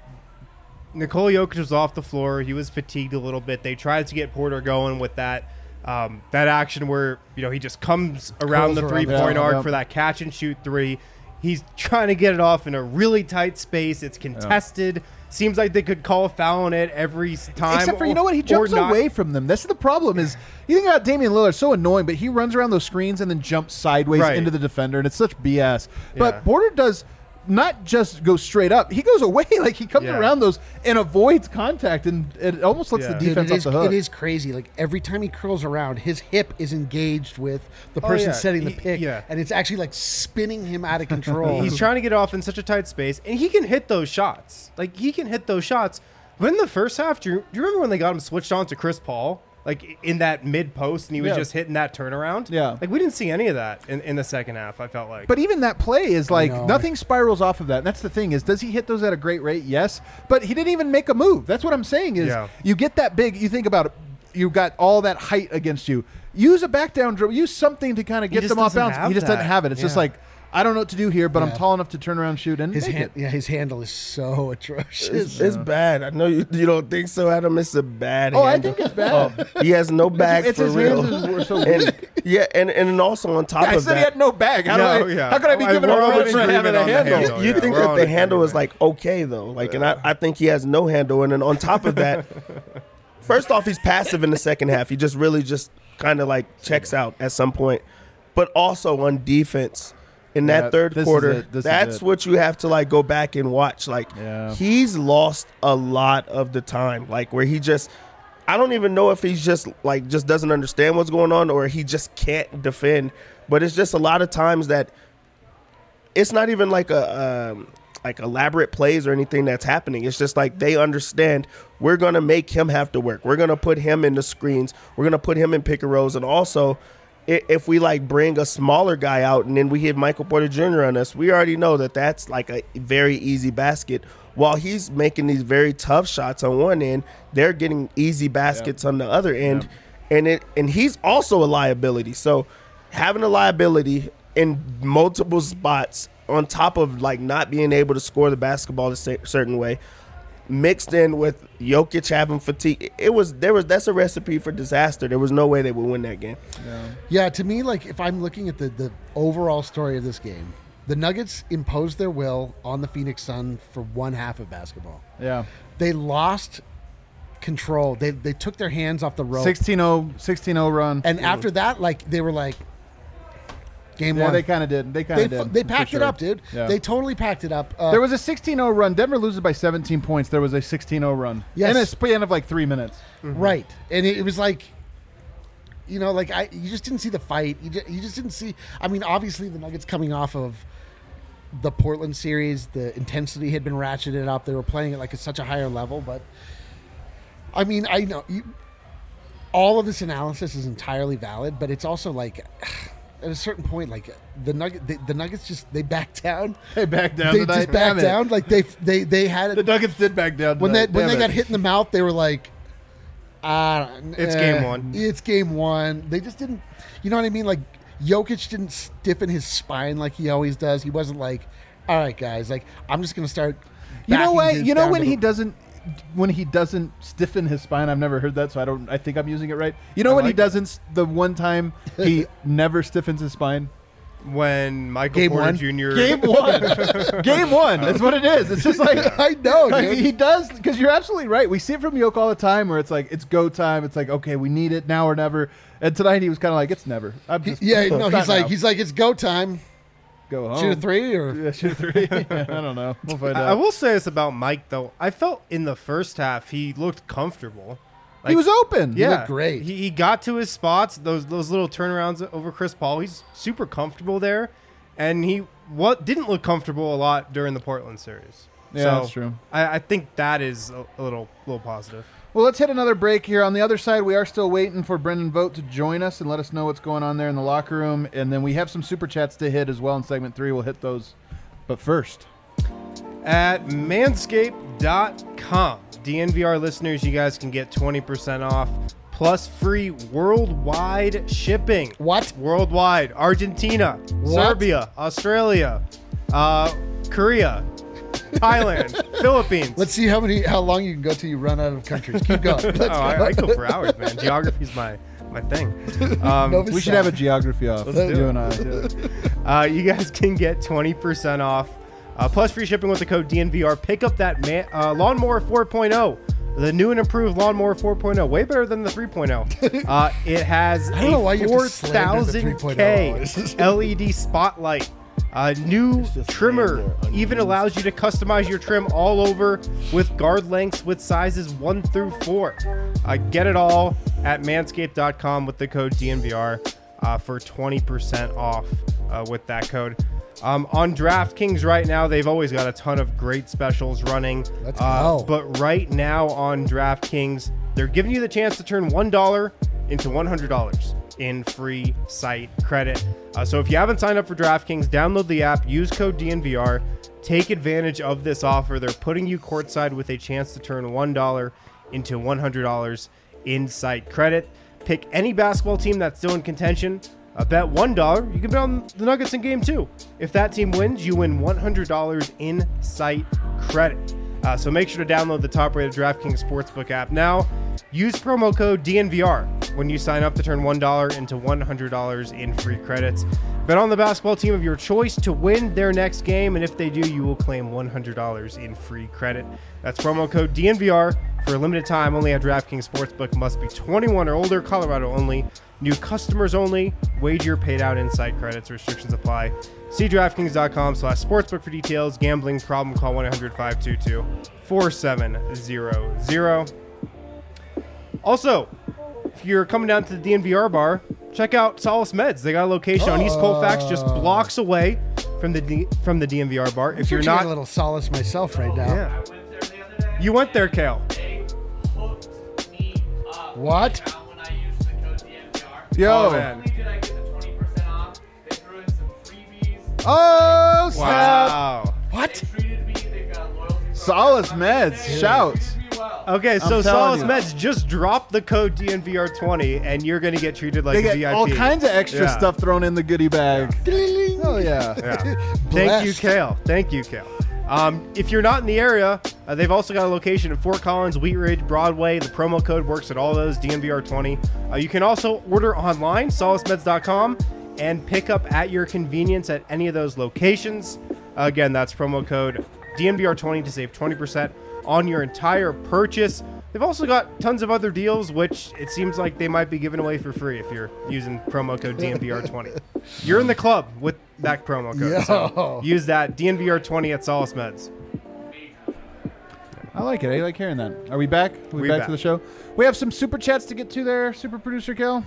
Nikola Jokic was off the floor. He was fatigued a little bit. They tried to get Porter going with that action where he just comes around the 3-point arc for that catch and shoot 3. He's trying to get it off in a really tight space. It's contested. Seems like they could call a foul on it every time. Except for, he jumps away from them. This is the problem is, you think about Damian Lillard, so annoying, but he runs around those screens and then jumps sideways into the defender, and it's such BS. But Porter does not just go straight up. He goes away. Like, he comes around those and avoids contact, and it almost lets the defense off the hook. It is crazy. Like, every time he curls around, his hip is engaged with the person setting the pick, and it's actually, like, spinning him out of control. He's trying to get off in such a tight space, and he can hit those shots. But in the first half, do you remember when they got him switched on to Chris Paul? Like, in that mid-post, and he was just hitting that turnaround? Yeah. Like, we didn't see any of that in the second half, I felt like. But even that play is like, nothing spirals off of that. And that's the thing is, does he hit those at a great rate? Yes. But he didn't even make a move. That's what I'm saying is, you get that big, you think about it, you've got all that height against you. Use a back down dribble. Use something to kind of get them off bounds. He just doesn't have it. It's just like, I don't know what to do here, but I'm Yeah. tall enough to turn around, shoot, and His make hand, it. his handle is so atrocious. It's bad. I know you don't think so, Adam. It's a bad Oh, I handle. think it's bad. He has no bag It's for his real. hands were so And weak. yeah, and also on top I of said he that, had no bag. How could I be giving we're a all run in for having agreement a on the handle? handle. you Yeah, think we're that all the in handle is agreement. like okay though, like, and I think he has no handle. And then on top of that, first off, he's passive in the second half. He just really just kind of like checks out at some point. But also on defense in Yeah, that third this is quarter, it. This is that's it. what you have to like go back and watch. Like Yeah. he's lost a lot of the time, like where he just. I don't even know if he's just doesn't understand what's going on or he just can't defend. But it's just a lot of times that it's not even like like elaborate plays or anything that's happening. It's just like they understand we're gonna make him have to work. We're gonna put him in the screens. We're gonna put him in pick and rolls. And also, if we like bring a smaller guy out and then we hit Michael Porter Jr. on us, we already know that that's like a very easy basket. While he's making these very tough shots on one end, they're getting easy baskets on the other end, and he's also a liability. So having a liability in multiple spots on top of like not being able to score the basketball a certain way, mixed in with Jokic having fatigue, that's a recipe for disaster. There was no way they would win that game. Yeah, to me, like if I'm looking at the overall story of this game, the Nuggets imposed their will on the Phoenix Sun for one half of basketball. Yeah. They lost control. They took their hands off the rope. 16-0 run. And after that, like they were like, game Yeah, one. they kind of did. They kind of did. They for packed sure. it up, dude. Yeah. They totally packed it up. There was a 16-0 run. Denver loses by 17 points. There was a 16-0 run. Yes. In a span of like 3 minutes. right, and it was like, you know, like you just didn't see the fight. You just didn't see. I mean, obviously the Nuggets coming off of the Portland series, the intensity had been ratcheted up. They were playing at like such a higher level, but I mean, I know all of this analysis is entirely valid, but it's also like at a certain point, like the Nuggets just they backed down. They backed down. They tonight. just backed Damn it. down. Like they had The it Nuggets did back down. when they tonight. Damn got it. hit in the mouth. They were like, It's game one. It's game one. They just didn't. You know what I mean? Like Jokic didn't stiffen his spine like he always does. He wasn't like, all right, guys, like I'm just gonna start. You know backing what? dudes You know down when to he the- doesn't stiffen his spine. I've never heard that, so I think I'm using it right. You know when he like doesn't. The one time he never stiffens his spine. When Michael Game Porter one? Jr. Game one. Game one. That's what it is. It's just like I know, like, dude. he does, because you're absolutely right. We see it from Yoke all the time where it's like, it's go time. It's like, okay, we need it now or never. And tonight he was kind of like, it's never. I'm just, Yeah, no, it's not now. he's like it's go time. Go home. Shoot a three or Yeah, shoot a three. I don't know. We'll find I out. will say this about Mike though. I felt in the first half he looked comfortable. He was open. Yeah, looked great. He got to his spots. Those little turnarounds over Chris Paul. He's super comfortable there, and he didn't look comfortable a lot during the Portland series. Yeah, So that's true. I think that is a little positive. Well, let's hit another break here. On the other side, we are still waiting for Brendan Vogt to join us and let us know what's going on there in the locker room. And then we have some super chats to hit as well in segment 3. We'll hit those. But first, At manscaped.com, DNVR listeners, you guys can get 20% off plus free worldwide shipping. What? Worldwide. Argentina, Serbia, Australia, Korea, Thailand, Philippines. Let's see how long you can go till you run out of countries. Keep going. Let's I go for hours, man. Geography's my thing. Nova we should Sad. have a geography off. Let's do You it. and I. You guys can get 20% off plus free shipping with the code DNVR. Pick up that Lawnmower 4.0. The new and improved Lawnmower 4.0. Way better than the 3.0. It has I don't know why a you have to slander the 4000K LED spotlight. New trimmer even allows you to customize your trim all over with guard lengths with sizes 1 through 4. Get it all at manscaped.com with the code DNVR for 20% off with that code. On DraftKings right now, they've always got a ton of great specials running. Let's go. But right now on DraftKings, they're giving you the chance to turn $1 into $100 in free site credit. So if you haven't signed up for DraftKings, download the app, use code DNVR, take advantage of this offer. They're putting you courtside with a chance to turn $1 into $100 in site credit. Pick any basketball team that's still in contention. Bet $1, you can bet on the Nuggets in game 2. If that team wins, you win $100 in site credit. So make sure to download the top-rated DraftKings Sportsbook app now. Use promo code DNVR when you sign up to turn $1 into $100 in free credits. Bet on the basketball team of your choice to win their next game, and if they do, you will claim $100 in free credit. That's promo code DNVR for a limited time only at DraftKings Sportsbook. Must be 21 or older, Colorado only. New customers only. Wager paid out in site credits. Restrictions apply. See DraftKings.com/sportsbook for details. Gambling problem, call 1-800-522-4700. Also, if you're coming down to the DNVR bar, check out Solace Meds. They got a location on East Colfax, just blocks away from the DNVR bar. If you're not a little solace myself right now. Yeah. I went there the other day. You went there, Kale. They hooked me up. What? When I used the code DNVR. Yo. Oh, Not man. only did I get the 20% off, they threw in some freebies. Oh, snap. Wow. What? They treated me. They've got a loyalty program. Solace Meds. They Shouts. treated me well. Okay, so I'm Solace telling you. Meds, just drop the code DNVR20 and you're going to get treated like They a get VIP. all kinds of extra Yeah. stuff thrown in the goodie bag. Oh, yeah. Yeah. Thank you, Blessed. Kale. Thank you, Kale. If you're not in the area, they've also got a location in Fort Collins, Wheat Ridge, Broadway. The promo code works at all those, DNVR20. You can also order online, solacemeds.com, and pick up at your convenience at any of those locations. Again, that's promo code DNVR20 to save 20% on your entire purchase. They've also got tons of other deals, which it seems like they might be giving away for free if you're using promo code DNVR20. You're in the club with that promo code. So Yo. use that DNVR20 at Solace Meds. I like it. I like hearing that. Are we back? Are we back to the show? We have some super chats to get to there, super producer Kel.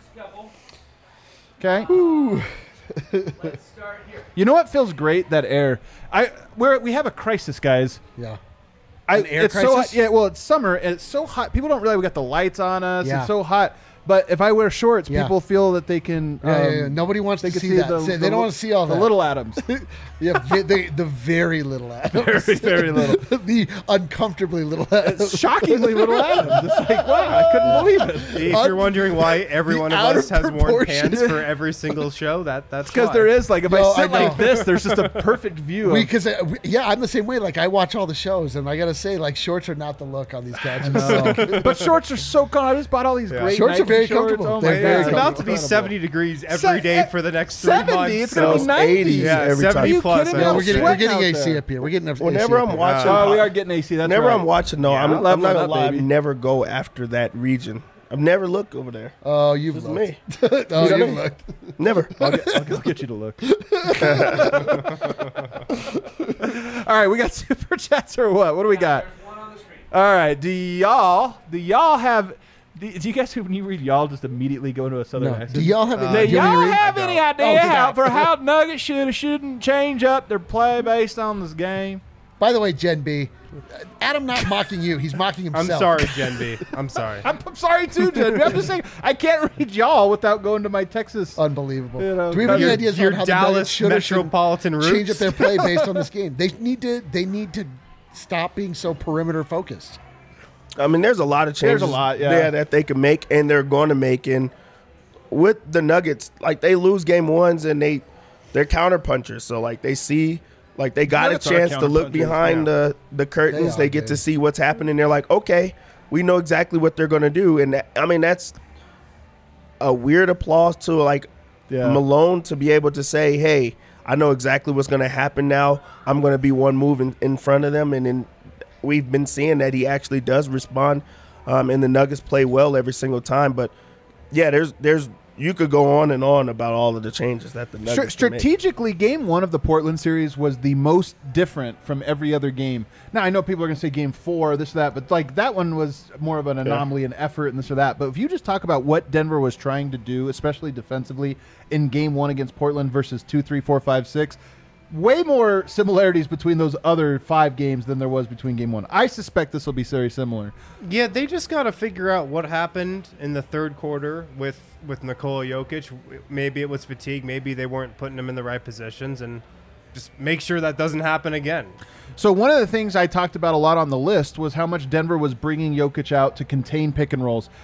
Okay. Let's start here. You know what feels great? That air. We have a crisis, guys. Yeah. An air it's crisis? So, yeah, well, it's summer and it's so hot. People don't realize we got the lights on us. Yeah. It's so hot. But if I wear shorts, Yeah. people feel that they can. Yeah. Nobody wants they to can see that. They don't want to see all the that. little atoms. Yeah, the very little atoms. Very, very little. The uncomfortably little atoms. Shockingly little atoms. It's like, wow, I couldn't believe it. If you're wondering why every one of out us of has worn proportion. pants for every single show, that's Because why. there is, like, if No, I I sit like know. this, there's just a perfect view. Because I'm the same way. Like I watch all the shows, and I gotta say, like shorts are not the look on these couches. But shorts are so cool. I just bought all these great Shorts are Nike very shorts. comfortable. Oh They're my very It's God. about to be Incredible. 70 degrees every day for the next 3 months. 70. It's gonna be So 90. 80s Yeah, every 70 time. Are you plus. kidding me? I No, I'm we're getting sweating out AC there. up here. We're getting Whenever AC I'm up here. watching, Oh, we are getting AC. That's whenever right. I'm watching, no, Yeah. I'm not Leveling gonna up, lie. baby. I never go after that region. I've never looked over there. Oh, you've It's looked. me. Oh, You know you've me? looked. Never. I'll get you to look. All right, we got super chats or what? What do we got? There's one on the screen. All right, do y'all have? Do you guys, when you read y'all, just immediately go into a southern No. accent? Do y'all have? Do do you want me y'all to read? have any idea Oh, how Nuggets should or shouldn't change up their play based on this game? By the way, Gen B, Adam not mocking you. He's mocking I'm himself. sorry, Gen B. I'm sorry. I'm sorry too, Jen. I'm just saying I can't read y'all without going to my Texas. Unbelievable. You know, Do we have any Your- ideas your on how the Nuggets Dallas should or shouldn't metropolitan roots. change up their play based on this game? They need to stop being so perimeter focused. I mean, there's a lot of changes There's a lot, yeah. there that they can make, and they're going to make. And with the Nuggets, like they lose game ones, and they're counterpunchers. So like they see, like they got Nuggets a are chance to look counterpunchers, behind the curtains. They They are, get to dude. see what's happening. They're like, okay, we know exactly what they're going to do. And I mean, that's a weird applause to like Yeah. Malone to be able to say, hey, I know exactly what's going to happen now. I'm going to be one move in front of them. And then we've been seeing that he actually does respond, and the Nuggets play well every single time. But, yeah, there's you could go on and on about all of the changes that the Nuggets can make. Strategically, game one of the Portland series was the most different from every other game. Now, I know people are going to say game 4, this or that, but like that one was more of an anomaly and effort and this or that. But if you just talk about what Denver was trying to do, especially defensively in game 1 against Portland versus 2, 3, 4, 5, 6, way more similarities between those other 5 games than there was between game 1. I suspect this will be very similar. Yeah, they just got to figure out what happened in the third quarter with Nikola Jokic. Maybe it was fatigue. Maybe they weren't putting him in the right positions, and just make sure that doesn't happen again. So one of the things I talked about a lot on the list was how much Denver was bringing Jokic out to contain pick and rolls.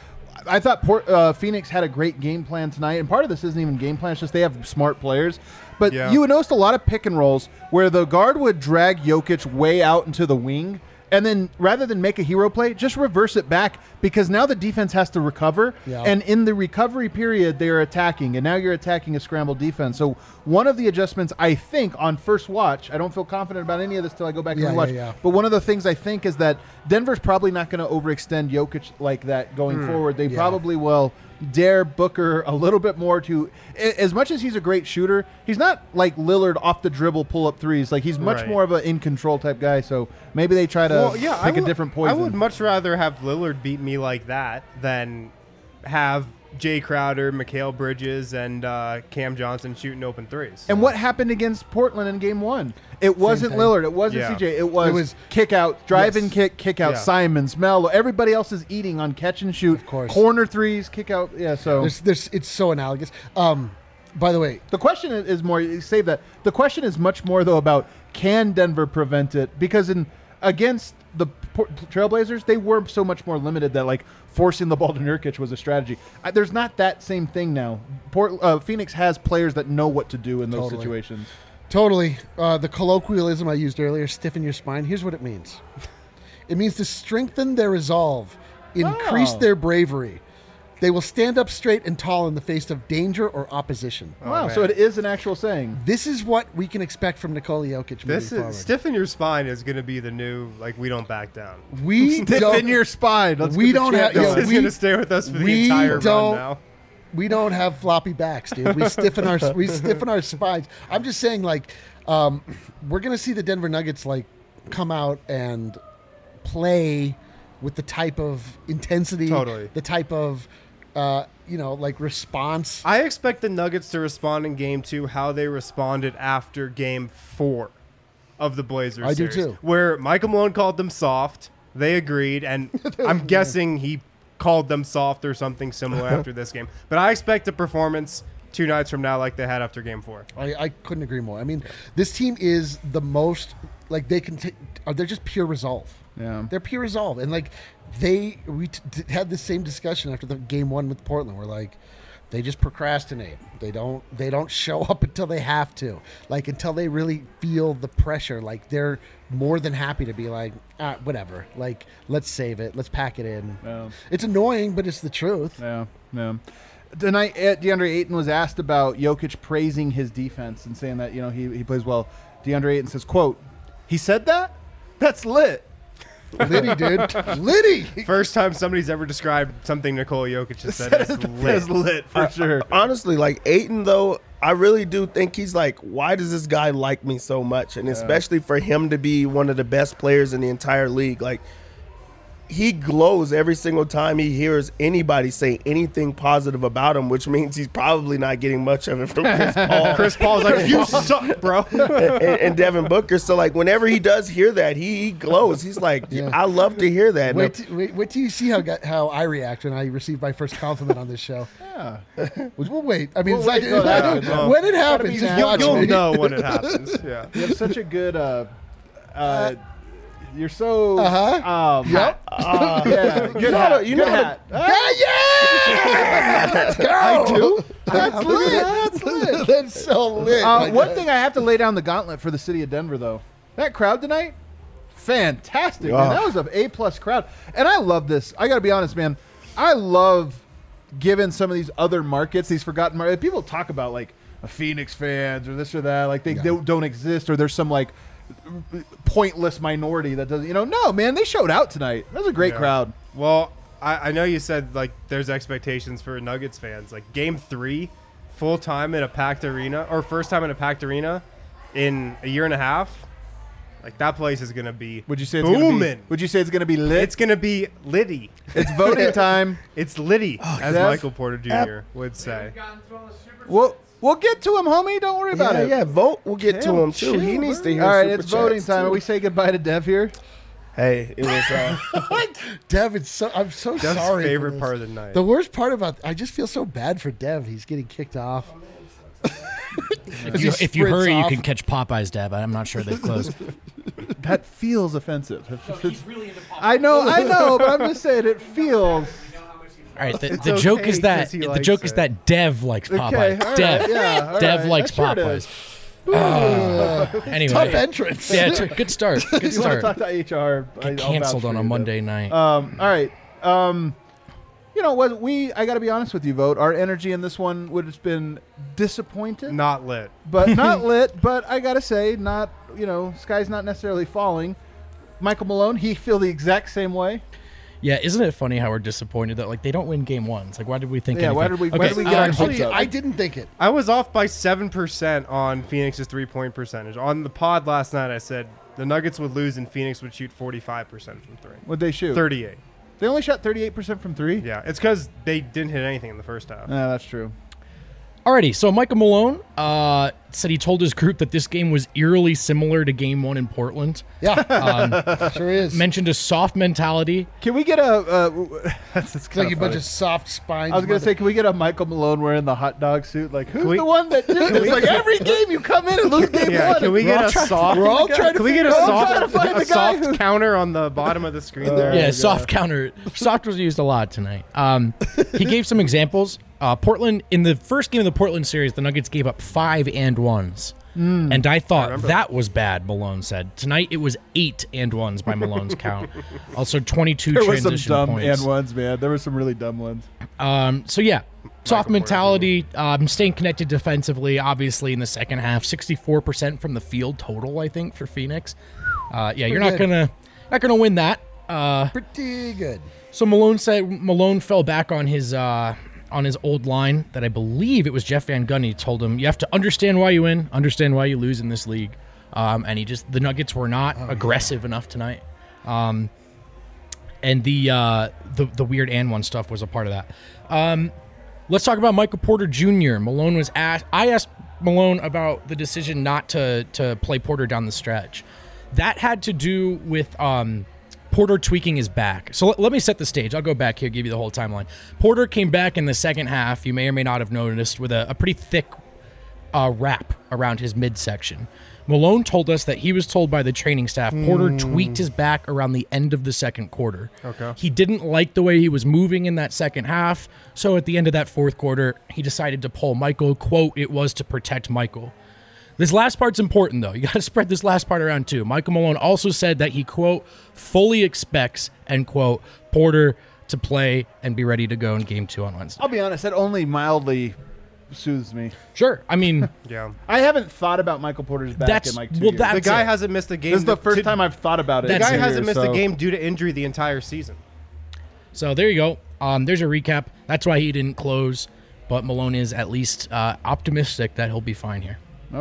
I thought Phoenix had a great game plan tonight, and part of this isn't even game plan; it's just they have smart players. But you would notice a lot of pick and rolls where the guard would drag Jokic way out into the wing, and then rather than make a hero play, just reverse it back because now the defense has to recover, and in the recovery period they are attacking, and now you're attacking a scrambled defense. So one of the adjustments I think on first watch, I don't feel confident about any of this till I go back and watch, but one of the things I think is that Denver's probably not going to overextend Jokic like that going forward. They probably will dare Booker a little bit more to, as much as he's a great shooter, he's not like Lillard off the dribble pull up threes. Like he's much more of an in control type guy. So maybe they try to pick a different poison. I would much rather have Lillard beat me like that than have Jay Crowder, Mikal Bridges, and Cam Johnson shooting open threes. And what happened against Portland in Game 1? It wasn't Lillard. It wasn't CJ. It was kick out, drive and kick out. Simons, Melo. Everybody else is eating on catch and shoot. Of course. Corner threes, kick out. Yeah. So it's so analogous. By the way, the question is more. Save that. The question is much more though about can Denver prevent it, because against the Trailblazers, they were so much more limited that like forcing the ball to Nurkic was a strategy. There's not that same thing now. Phoenix has players that know what to do in those situations. Totally. The colloquialism I used earlier, stiffen your spine, here's what it means. It means to strengthen their resolve, increase their bravery. They will stand up straight and tall in the face of danger or opposition. Wow, so it is an actual saying. This is what we can expect from Nikola Jokic moving forward. Stiffen your spine is going to be the new, like, we don't back down. Stiffen your spine. We don't have. This is going to stay with us for the entire run now. We don't have floppy backs, dude. We stiffen our spines. I'm just saying, like, we're going to see the Denver Nuggets like come out and play with the type of intensity, the type of like response. I expect the Nuggets to respond in Game 2 how they responded after Game 4 of the Blazers series. I do too. Where Michael Malone called them soft. They agreed, and I'm guessing he called them soft or something similar after this game. But I expect a performance 2 nights from now like they had after Game 4. I couldn't agree more. I mean, this team is the most, like, they can they're just pure resolve. Yeah. They're pure resolve. And, like, we had the same discussion after the Game 1 with Portland. We're like, they just procrastinate. They don't show up until they have to. Like, until they really feel the pressure. Like, they're more than happy to be like, whatever. Like, let's save it. Let's pack it in. Yeah. It's annoying, but it's the truth. Yeah. Tonight, DeAndre Ayton was asked about Jokic praising his defense and saying that, he plays well. DeAndre Ayton says, quote, "He said that? That's lit." Liddy, dude. Liddy. First time somebody's ever described something Nikola Jokic has said as lit. It's lit for sure. Honestly, like Ayton, though, I really do think he's like, why does this guy like me so much? And especially for him to be one of the best players in the entire league, like, he glows every single time he hears anybody say anything positive about him, which means he's probably not getting much of it from Chris Paul. Chris Paul's like, you suck, bro. and Devin Booker. So, like, whenever he does hear that, he glows. He's like, I love to hear that. Wait till you see how I react when I receive my first compliment on this show. Yeah. We'll wait. I mean, when it happens, you'll know when it happens. Yeah. You have such a good... you're so... Yep. Yeah, good hat. You know hat. Yeah! Let's go! I do? That's lit. That's lit. That's so lit. One thing I have to lay down the gauntlet for the city of Denver, though. That crowd tonight, fantastic, man. That was an A-plus crowd. And I love this. I got to be honest, man. I love giving some of these other markets, these forgotten markets. People talk about, like, Phoenix fans or this or that. Like, they don't exist, or there's some, like, pointless minority that doesn't, no, man, they showed out tonight. That was a great crowd. Well, I know you said, like, there's expectations for Nuggets fans. Like, Game 3, full time in a packed arena, or first time in a packed arena in a year and a half. Like, that place is going to be Would you say it's booming. Gonna be, would you say it's going to be lit? It's going to be litty. It's voting time. It's litty, as Michael Porter Jr. would say. We'll get to him, homie. Don't worry about it. Yeah, vote. We'll get to him, too. He needs to hear All right, Super it's voting Chats, time. too. We say goodbye to Dev here. Hey, it was... Dev, I'm so Dev's sorry. favorite part of the night. The worst part about I just feel so bad for Dev. He's getting kicked off. If you hurry, you can catch Popeye's, Dev. I'm not sure they've closed. That feels offensive. He's really into pop. I know, but I'm just saying it feels. All right, the It's joke okay is that 'cause he the likes joke is it. that Dev likes Popeye. Okay, all right, Dev, yeah, all Dev right. likes Sure it Popeyes. is. Anyway, Tough entrance. yeah, good start. Good You want to start. talk to HR? Get canceled on a Monday night. All right. You know what? I got to be honest with you, Vote. Our energy in this one would have been disappointed, Not lit. but not lit. But I got to say, not, sky's not necessarily falling. Michael Malone, he feel the exact same way. Yeah, isn't it funny how we're disappointed that Game 1? It's like, why did we think? Yeah, why anything? did we get our hopes Actually, up? I didn't think it. I was off by 7% on Phoenix's 3-point percentage. On the pod last night, I said the Nuggets would lose and Phoenix would shoot 45% from three. What'd they shoot? 38. They only shot 38% from three. Yeah, it's because they didn't hit anything in the first half. Yeah, that's true. Alrighty, so Michael Malone said he told his group that this game was eerily similar to Game 1 in Portland. Yeah, sure is. Mentioned a soft mentality. Can we get a? That's It's like a bunch of soft spines. I was gonna say, can we get a Michael Malone wearing the hot dog suit? Like, who's we- the one that did this? Like every game you come in and lose game Yeah, one. can we get a soft? We're all trying to Can we get a figure out- trying to soft, find a the guy soft who- counter on the bottom of the screen there? Yeah, soft counter. Soft was used a lot tonight. He gave some examples. Portland, in the first game of the Portland series, the Nuggets gave up 5 and 1s. And I thought that was bad, Malone said. Tonight, it was 8 and 1s by Malone's count. Also, 22 There was some transition dumb points. and ones, man. There were some really dumb ones. So, yeah, soft mentality, staying connected defensively, obviously, in the second half. 64% from the field total, I think, for Phoenix. Yeah, you're not good. gonna win that. Pretty good. So Malone fell back on his old line that I believe it was Jeff Van Gundy told him, you have to understand why you win, understand why you lose in this league. And the Nuggets were not aggressive enough tonight. And the weird and one stuff was a part of that. Let's talk about Michael Porter Jr. I asked Malone about the decision not to play Porter down the stretch. That had to do with Porter tweaking his back. So let me set the stage. I'll go back here, give you the whole timeline. Porter came back in the second half, you may or may not have noticed, with a pretty thick wrap around his midsection. Malone told us that he was told by the training staff Porter tweaked his back around the end of the second quarter. Okay. He didn't like the way he was moving in that second half, so at the end of that fourth quarter, he decided to pull Michael. Quote, it was to protect Michael. This last part's important, though. You got to spread this last part around, too. Michael Malone also said that he, quote, fully expects, end quote, Porter to play and be ready to go in Game 2 on Wednesday. I'll be honest, that only mildly soothes me. Sure. I mean, Yeah. I haven't thought about Michael Porter's back That's- in like 2 well, years. that's The guy it. hasn't missed a game. This is the first to- time I've thought about it. The in guy 2 hasn't years, missed so- a game due to injury the entire season. so there you go. There's a recap. That's why he didn't close, but Malone is at least optimistic that he'll be fine here.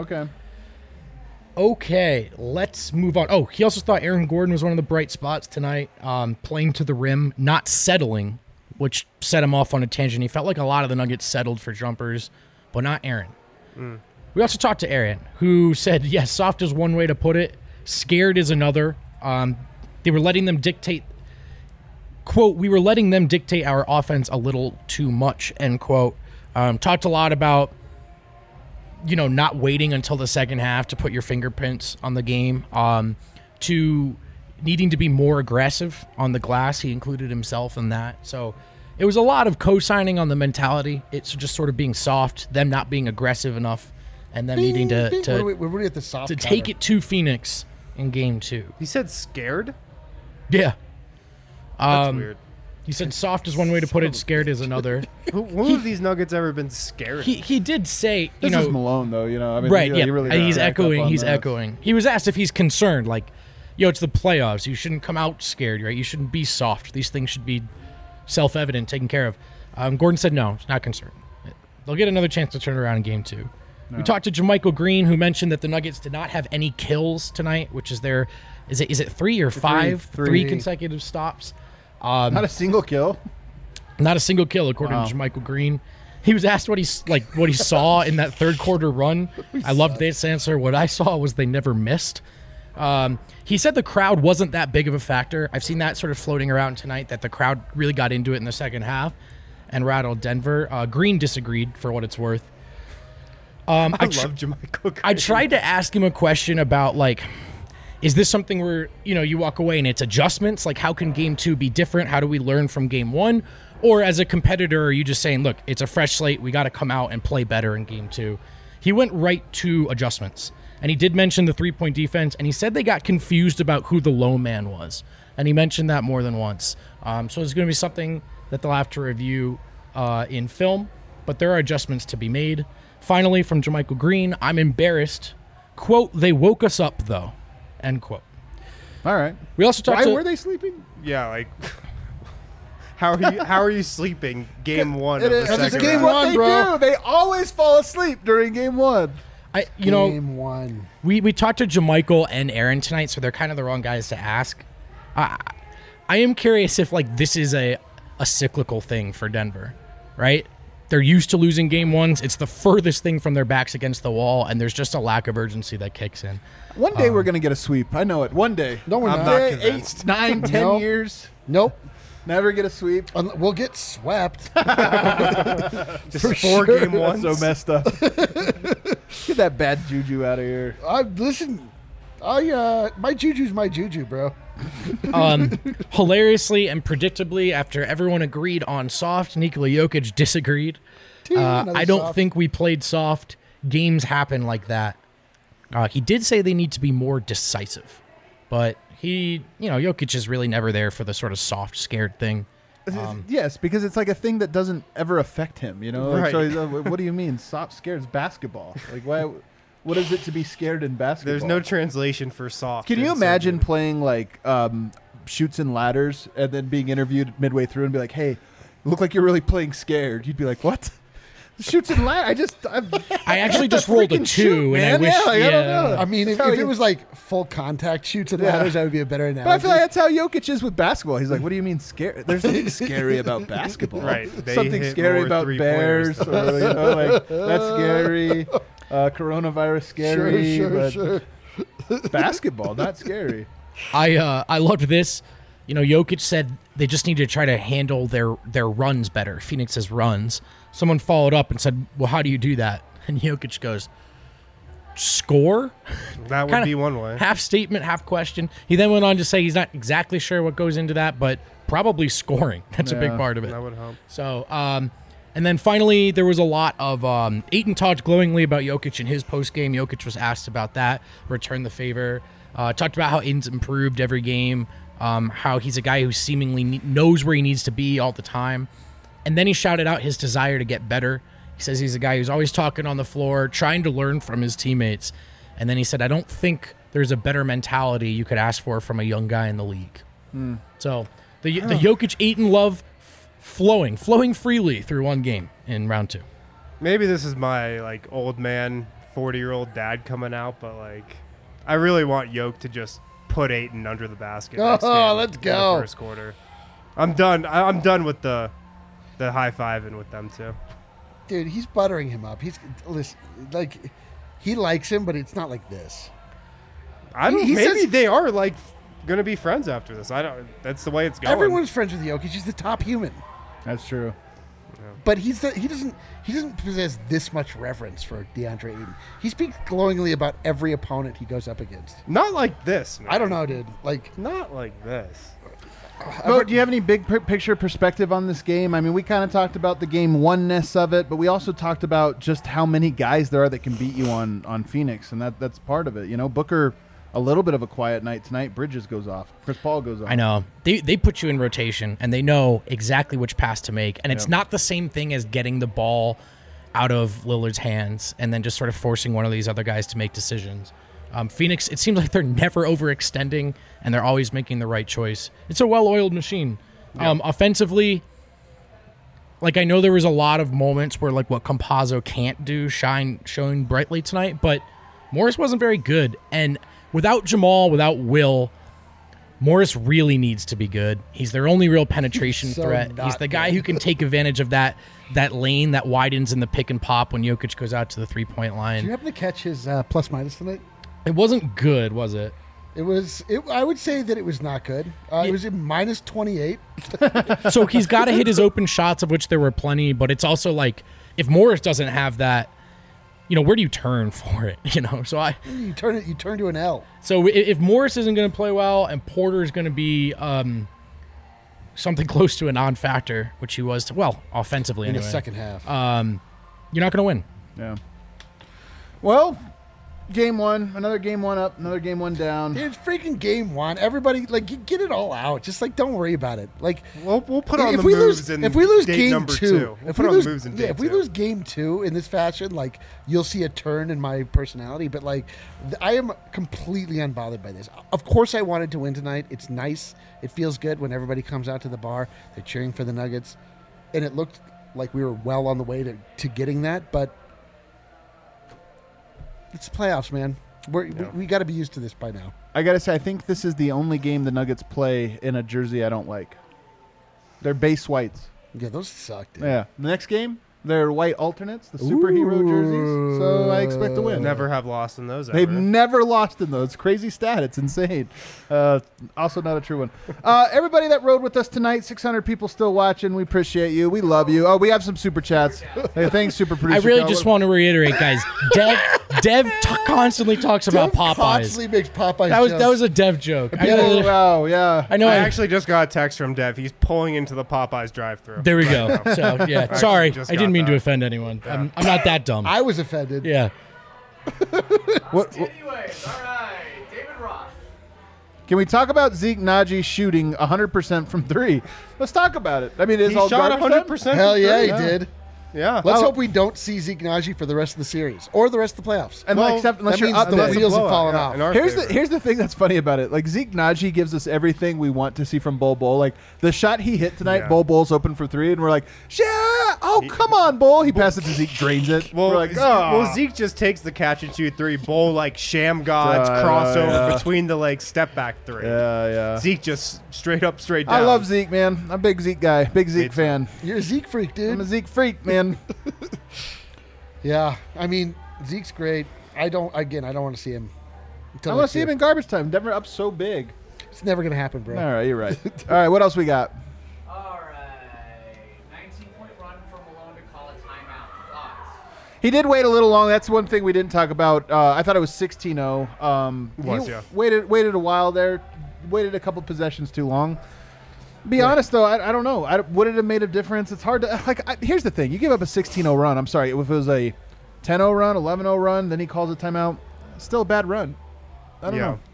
Okay. Let's move on. Oh, he also thought Aaron Gordon was one of the bright spots tonight, playing to the rim, not settling, which set him off on a tangent. He felt like a lot of the Nuggets settled for jumpers, but not Aaron. We also talked to Aaron, who said, yes, soft is one way to put it, scared is another. They were letting them dictate, quote, we were letting them dictate our offense a little too much, end quote. Talked a lot about, not waiting until the second half to put your fingerprints on the game, to needing to be more aggressive on the glass. He included himself in that. So it was a lot of co-signing on the mentality. It's just sort of being soft, them not being aggressive enough, and them needing to We're at the soft to counter. take it to Phoenix in Game 2. He said scared? Yeah. That's weird. He said soft is one way to put it, scared is another. Who have these Nuggets ever been scared? He did say, This is Malone, though. I mean, right, he yeah. really He's didn't rack up echoing. on He's this. echoing. He was asked if he's concerned, like, it's the playoffs. You shouldn't come out scared, right? You shouldn't be soft. These things should be self-evident, taken care of. Gordon said no, he's not concerned. They'll get another chance to turn around in Game 2. We talked to JaMychal Green, who mentioned that the Nuggets did not have any kills tonight, which is their, is it 3 or 5? Three. 3 consecutive stops. Not a single kill. Not a single kill, according to JaMychal Green. He was asked what he saw in that third quarter run. I loved this answer. What I saw was they never missed. He said the crowd wasn't that big of a factor. I've seen that sort of floating around tonight, that the crowd really got into it in the second half and rattled Denver. Green disagreed, for what it's worth. I love JaMychal Green. I tried to ask him a question about, is this something where, you walk away and it's adjustments? Like, how can Game 2 be different? How do we learn from Game 1? Or as a competitor, are you just saying, look, it's a fresh slate. We got to come out and play better in game 2. He went right to adjustments. And he did mention the 3-point defense, and he said they got confused about who the low man was. And he mentioned that more than once. So it's going to be something that they'll have to review in film, but there are adjustments to be made. Finally, from Jermichael Green, I'm embarrassed. Quote, they woke us up, though. End quote. All right. We also talked Why were they sleeping? Yeah, like how are you sleeping game 1 of It the is- second it's game round? one. They bro. do. They always fall asleep during game 1. Game 1. We talked to Jermichael and Aaron tonight, so they're kind of the wrong guys to ask. I am curious if like this is a cyclical thing for Denver, right? They're used to losing game 1s. It's the furthest thing from their backs against the wall, and there's just a lack of urgency that kicks in. One day we're going to get a sweep. I know it. One day. No, we're I'm not. not convinced. 8, 9, 10 Nope. years. Nope. Never get a sweep. We'll get swept. Just 4 game 1s. So messed up. Get that bad juju out of here. Listen, my juju's my juju, bro. Hilariously and predictably, after everyone agreed on soft, Nikola Jokic disagreed. Another I don't soft. think we played soft. Games happen like that. He did say they need to be more decisive, but Jokic is really never there for the sort of soft, scared thing. Yes, because it's like a thing that doesn't ever affect him, you know? Like, Right. so he's, what do you mean? Stop scared. It's basketball. Like, why? What is it to be scared in basketball? There's no translation for soft. Can you in imagine soccer. playing like shoots and ladders and then being interviewed midway through and be like, hey, look like you're really playing scared? You'd be like, what? Shoots and ladders? I actually just rolled a 2, shoot, and I man. wish. Yeah, like, I don't know. I mean, if That's how it was like full contact shoots and ladders, that would be a better analogy. But I feel like that's how Jokic is with basketball. He's like, what do you mean scary? There's nothing scary about basketball. Right. They Something hit scary more about three-pointers. Bears. Or, like, that's scary. Coronavirus scary. Sure. Basketball, not scary. I loved this. Jokic said they just need to try to handle their runs better, Phoenix's runs. Someone followed up and said, well, how do you do that? And Jokic goes, score? That would Kinda be one way. Half statement, half question. He then went on to say he's not exactly sure what goes into that, but probably scoring. That's a big Yeah. part of it. That would help. So, and then finally, there was a lot of Ayton talked glowingly about Jokic in his postgame. Jokic was asked about that, returned the favor, talked about how Ayton's improved every game, how he's a guy who seemingly knows where he needs to be all the time. And then he shouted out his desire to get better. He says he's a guy who's always talking on the floor, trying to learn from his teammates. And then he said, I don't think there's a better mentality you could ask for from a young guy in the league. So the Jokic-Ayton love flowing freely through one game in round 2. Maybe this is my like old man, 40-year-old dad coming out, but like I really want Yoke to just put Ayton under the basket. Oh, next game let's in go. The first quarter. I'm done. I'm done with the high-fiving with them too. Dude, he's buttering him up. Listen, like he likes him, but it's not like this. I don't. He Maybe says- they are like gonna be friends after this. I don't. That's the way it's going. Everyone's friends with Jokic. He's the top human, That's true. but he doesn't possess this much reverence for DeAndre Ayton. He speaks glowingly about every opponent he goes up against. not like this. Man. I don't know, dude. Like, Not like this. But do you have any big picture perspective on this game? I mean, we kind of talked about the game oneness of it, but we also talked about just how many guys there are that can beat you on Phoenix, and that's part of it. Booker, a little bit of a quiet night tonight. Bridges goes off. Chris Paul goes off. I know. They put you in rotation, and they know exactly which pass to make. And it's not the same thing as getting the ball out of Lillard's hands and then just sort of forcing one of these other guys to make decisions. Phoenix, it seems like they're never overextending, and they're always making the right choice. It's a well-oiled machine. Offensively, like I know there was a lot of moments where like what Campazzo can't do shone brightly tonight, but Morris wasn't very good. And without Jamal, without Will, Morris really needs to be good. He's their only real penetration So threat. not He's the guy good. who can take advantage of that lane that widens in the pick and pop when Jokic goes out to the three-point line. did you happen to catch his plus minus tonight? It wasn't good, was it? It was. I would say that it was not good. It was in minus 28. So he's got to hit his open shots, of which there were plenty, but it's also like if Morris doesn't have that, where do you turn for it? So You turn to an L. if Morris isn't going to play well and Porter is going to be something close to a non-factor, which he was, offensively in anyway. the second half. You're not going to win. Yeah. Well, game one, another game one up, another game one down. It's freaking game one. Everybody, like, get it all out. Just, like, don't worry about it. Like, We'll put on if the we moves lose, in if we lose date game number 2, two. We'll if put we on lose, the moves in yeah, date if we 2. lose game 2 in this fashion, like, you'll see a turn in my personality. But, like, I am completely unbothered by this. Of course, I wanted to win tonight. It's nice. It feels good when everybody comes out to the bar. They're cheering for the Nuggets, and it looked like we were well on the way to getting that. But it's the playoffs, man. We got to be used to this by now. I got to say, I think this is the only game the Nuggets play in a jersey I don't like. They're base whites. Yeah, those suck, dude. Yeah. The next game, they're white alternates, the superhero jerseys. So I expect to win. Never have lost in those. They've ever. never lost in those. Crazy stat. It's insane. Also not a true one. Everybody that rode with us tonight, 600 people still watching. We appreciate you. We love you. Oh, we have some super chats. Hey, thanks, super producer. I really Cal. just want to reiterate, guys. Dev constantly talks about Popeyes. Constantly makes Popeyes. That was a Dev joke. Oh, wow, yeah. I know. I actually just got a text from Dev. He's pulling into the Popeyes drive-thru. There we go. So yeah, I sorry, just I didn't got mean to that. offend anyone. I'm not that dumb. I was offended. Yeah. Anyways, all right, David Roth. Can we talk about Zeke Naji shooting 100% from three? Let's talk about it. I mean, it's He all shot garbage time? 100%. Hell from yeah, three. he did. Yeah. Let's hope we don't see Zeke Naji for the rest of the series or the rest of the playoffs. And Well, except unless that you're means up the there. wheels have fallen off. in our Here's favor. the thing that's funny about it. Like Zeke Naji gives us everything we want to see from Bol Bol. Like the shot he hit tonight, Yeah. Bol Bol's open for three, and we're like, yeah, oh come on, Bol. He passes it to Zeke, drains it. Well, we're like, oh. Zeke just takes the catch and shoot three, Bull like sham gods crossover yeah. between the like step back three. Yeah. Zeke just straight up, straight down. I love Zeke, man. I'm a big Zeke guy, big Zeke too. fan. You're a Zeke freak, I'm a dude. Zeke freak, man. Yeah, I mean Zeke's great. I don't want to see him. I want to see him in garbage time. Denver up so big. It's never gonna happen, bro. All right, you're right. All right, what else we got? All right, 19-point run for Malone to call a timeout. Thoughts? He did wait a little long. That's one thing we didn't talk about. I thought it was 16-0. Was, he yeah. Waited a while there. Waited a couple possessions too long. Be honest, though, I don't know. Would it have made a difference? It's hard to... here's the thing. You give up a 16-0 run. I'm sorry. If it was a 10-0 run, 11-0 run, then he calls a timeout, still a bad run. I don't know.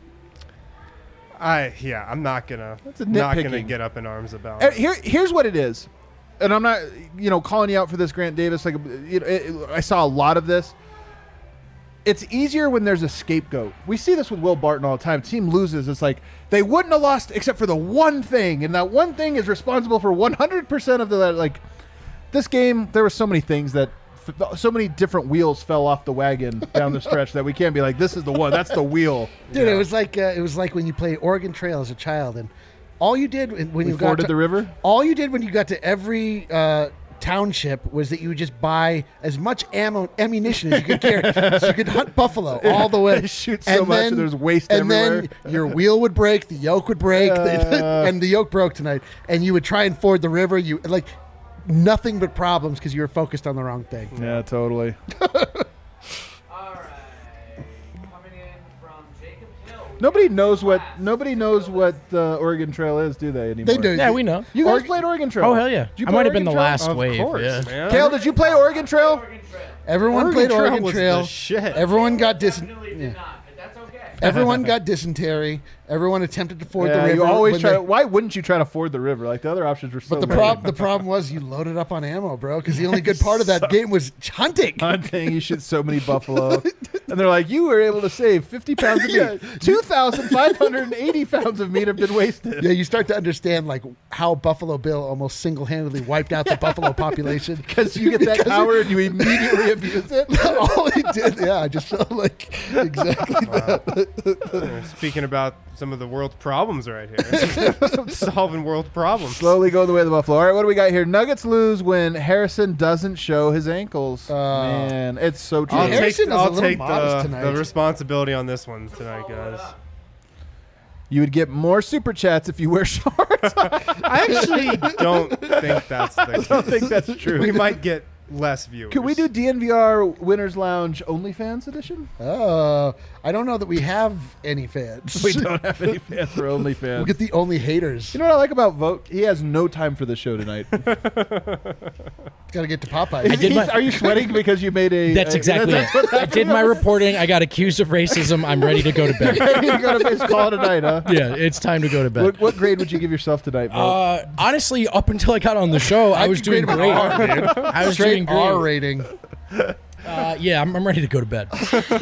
I'm not gonna nitpicking. get up in arms about it. Here's what it is. And I'm not, calling you out for this, Grant Davis. Like, I saw a lot of this. It's easier when there's a scapegoat. We see this with Will Barton all the time. Team loses. It's like they wouldn't have lost except for the one thing, and that one thing is responsible for 100% of the like. This game, there were so many things that, so many different wheels fell off the wagon down the stretch that we can't be like, this is the one. That's the wheel. Dude, it was like when you played Oregon Trail as a child, and all you did when you got forded to the river. All you did when you got to every township was that you would just buy as much ammunition as you could carry, so you could hunt buffalo all the way. Shoot so much, and there's waste and everywhere. then your wheel would break, the yoke would break, and the yoke broke tonight. And you would try and ford the river. You like nothing but problems because you were focused on the wrong thing. Yeah, totally. All right, coming in from Jacob Hill. Nobody knows what the Oregon Trail is, do they anymore? They do. Yeah, we know. You guys played Oregon Trail. Oh hell yeah! Did you I play might have been Oregon the Trail? last Of wave. course, Yeah. man. Kale, did you play Oregon Trail? Oregon Trail. Everyone Oregon played Trail Oregon was Trail. the shit. Everyone got Definitely did not, but that's okay. Everyone got dysentery. Everyone attempted to ford the river. you always when try. they- Why wouldn't you try to ford the river? Like the other options were so. But the problem was you loaded up on ammo, bro. Because the only good part of that game was hunting. hunting, you shoot so many buffalo, and they're like, you were able to save 50 pounds of meat. 2,580 pounds of meat have been wasted. Yeah, you start to understand like how Buffalo Bill almost single-handedly wiped out the buffalo population. Because you get that power and you immediately abuse it. All he did, yeah, I just felt like exactly that. Speaking about some of the world's problems right here. Solving world problems. Slowly going the way of the buffalo. All right, what do we got here? Nuggets lose when Harrison doesn't show his ankles. Man, it's so true. I'll Harrison take, is a I'll little take modest tonight. the responsibility on this one tonight, guys. You would get more super chats if you wear shorts. I actually don't think that's the case. I don't think that's true. We might get less viewers. Could we do DNVR Winners Lounge OnlyFans edition? Oh, I don't know that we have any fans. We don't have any fans for OnlyFans. We'll get the only haters. You know what I like about Vote? He has no time for the show tonight. Got to get to Popeye. I did my- Are you sweating because you made a... That's exactly it. I did my reporting. I got accused of racism. I'm ready to go to bed. You got to call it a night, huh? Yeah, it's time to go to bed. What grade would you give yourself tonight, Vote? Honestly, up until I got on the show, I was doing great. I was doing Straight R great. rating. Yeah, I'm ready to go to bed.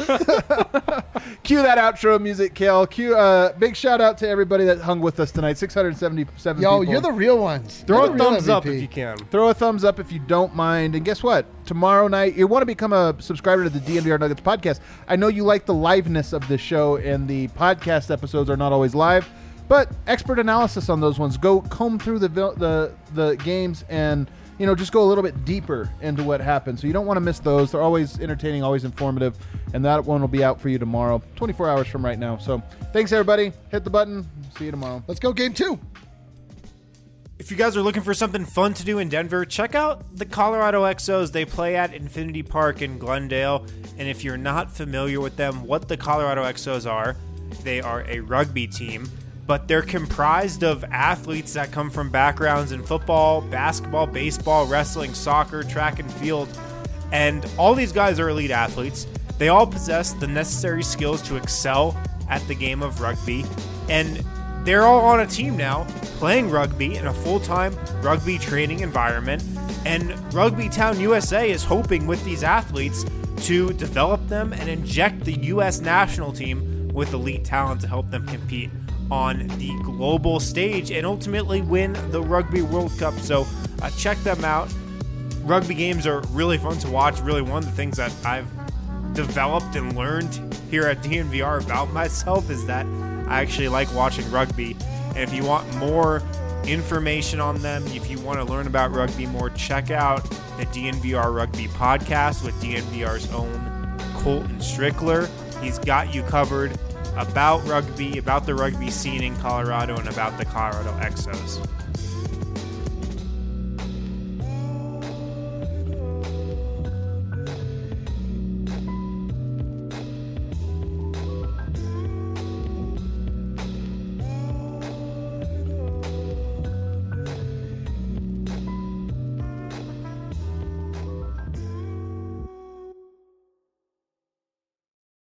Cue that outro music, Kale. Big shout out to everybody that hung with us tonight. 677 Yo, people. you're the real ones. Throw You're a the real thumbs up MVP. if you can. Throw a thumbs up if you don't mind. And guess what? Tomorrow night, you want to become a subscriber to the DNVR Nuggets podcast. I know you like the liveness of this show, and the podcast episodes are not always live, but expert analysis on those ones. Go comb through the games and just go a little bit deeper into what happened. So you don't want to miss those. They're always entertaining, always informative, and that one will be out for you tomorrow, 24 hours from right now. So thanks, everybody. Hit the button. See you tomorrow. Let's go game 2. If you guys are looking for something fun to do in Denver, check out the Colorado Exos. They play at Infinity Park in Glendale. And if you're not familiar with them, what the Colorado Exos are, they are a rugby team, but they're comprised of athletes that come from backgrounds in football, basketball, baseball, wrestling, soccer, track and field. And all these guys are elite athletes. They all possess the necessary skills to excel at the game of rugby. And they're all on a team now playing rugby in a full-time rugby training environment. And Rugby Town USA is hoping with these athletes to develop them and inject the U.S. national team with elite talent to help them compete on the global stage and ultimately win the Rugby World Cup. So check them out. Rugby games are really fun to watch. Really one of the things that I've developed and learned here at DNVR about myself is that I actually like watching rugby. And if you want more information on them, if you want to learn about rugby more, check out the DNVR Rugby podcast with DNVR's own Colton Strickler. He's got you covered about rugby, about the rugby scene in Colorado, and about the Colorado Exos.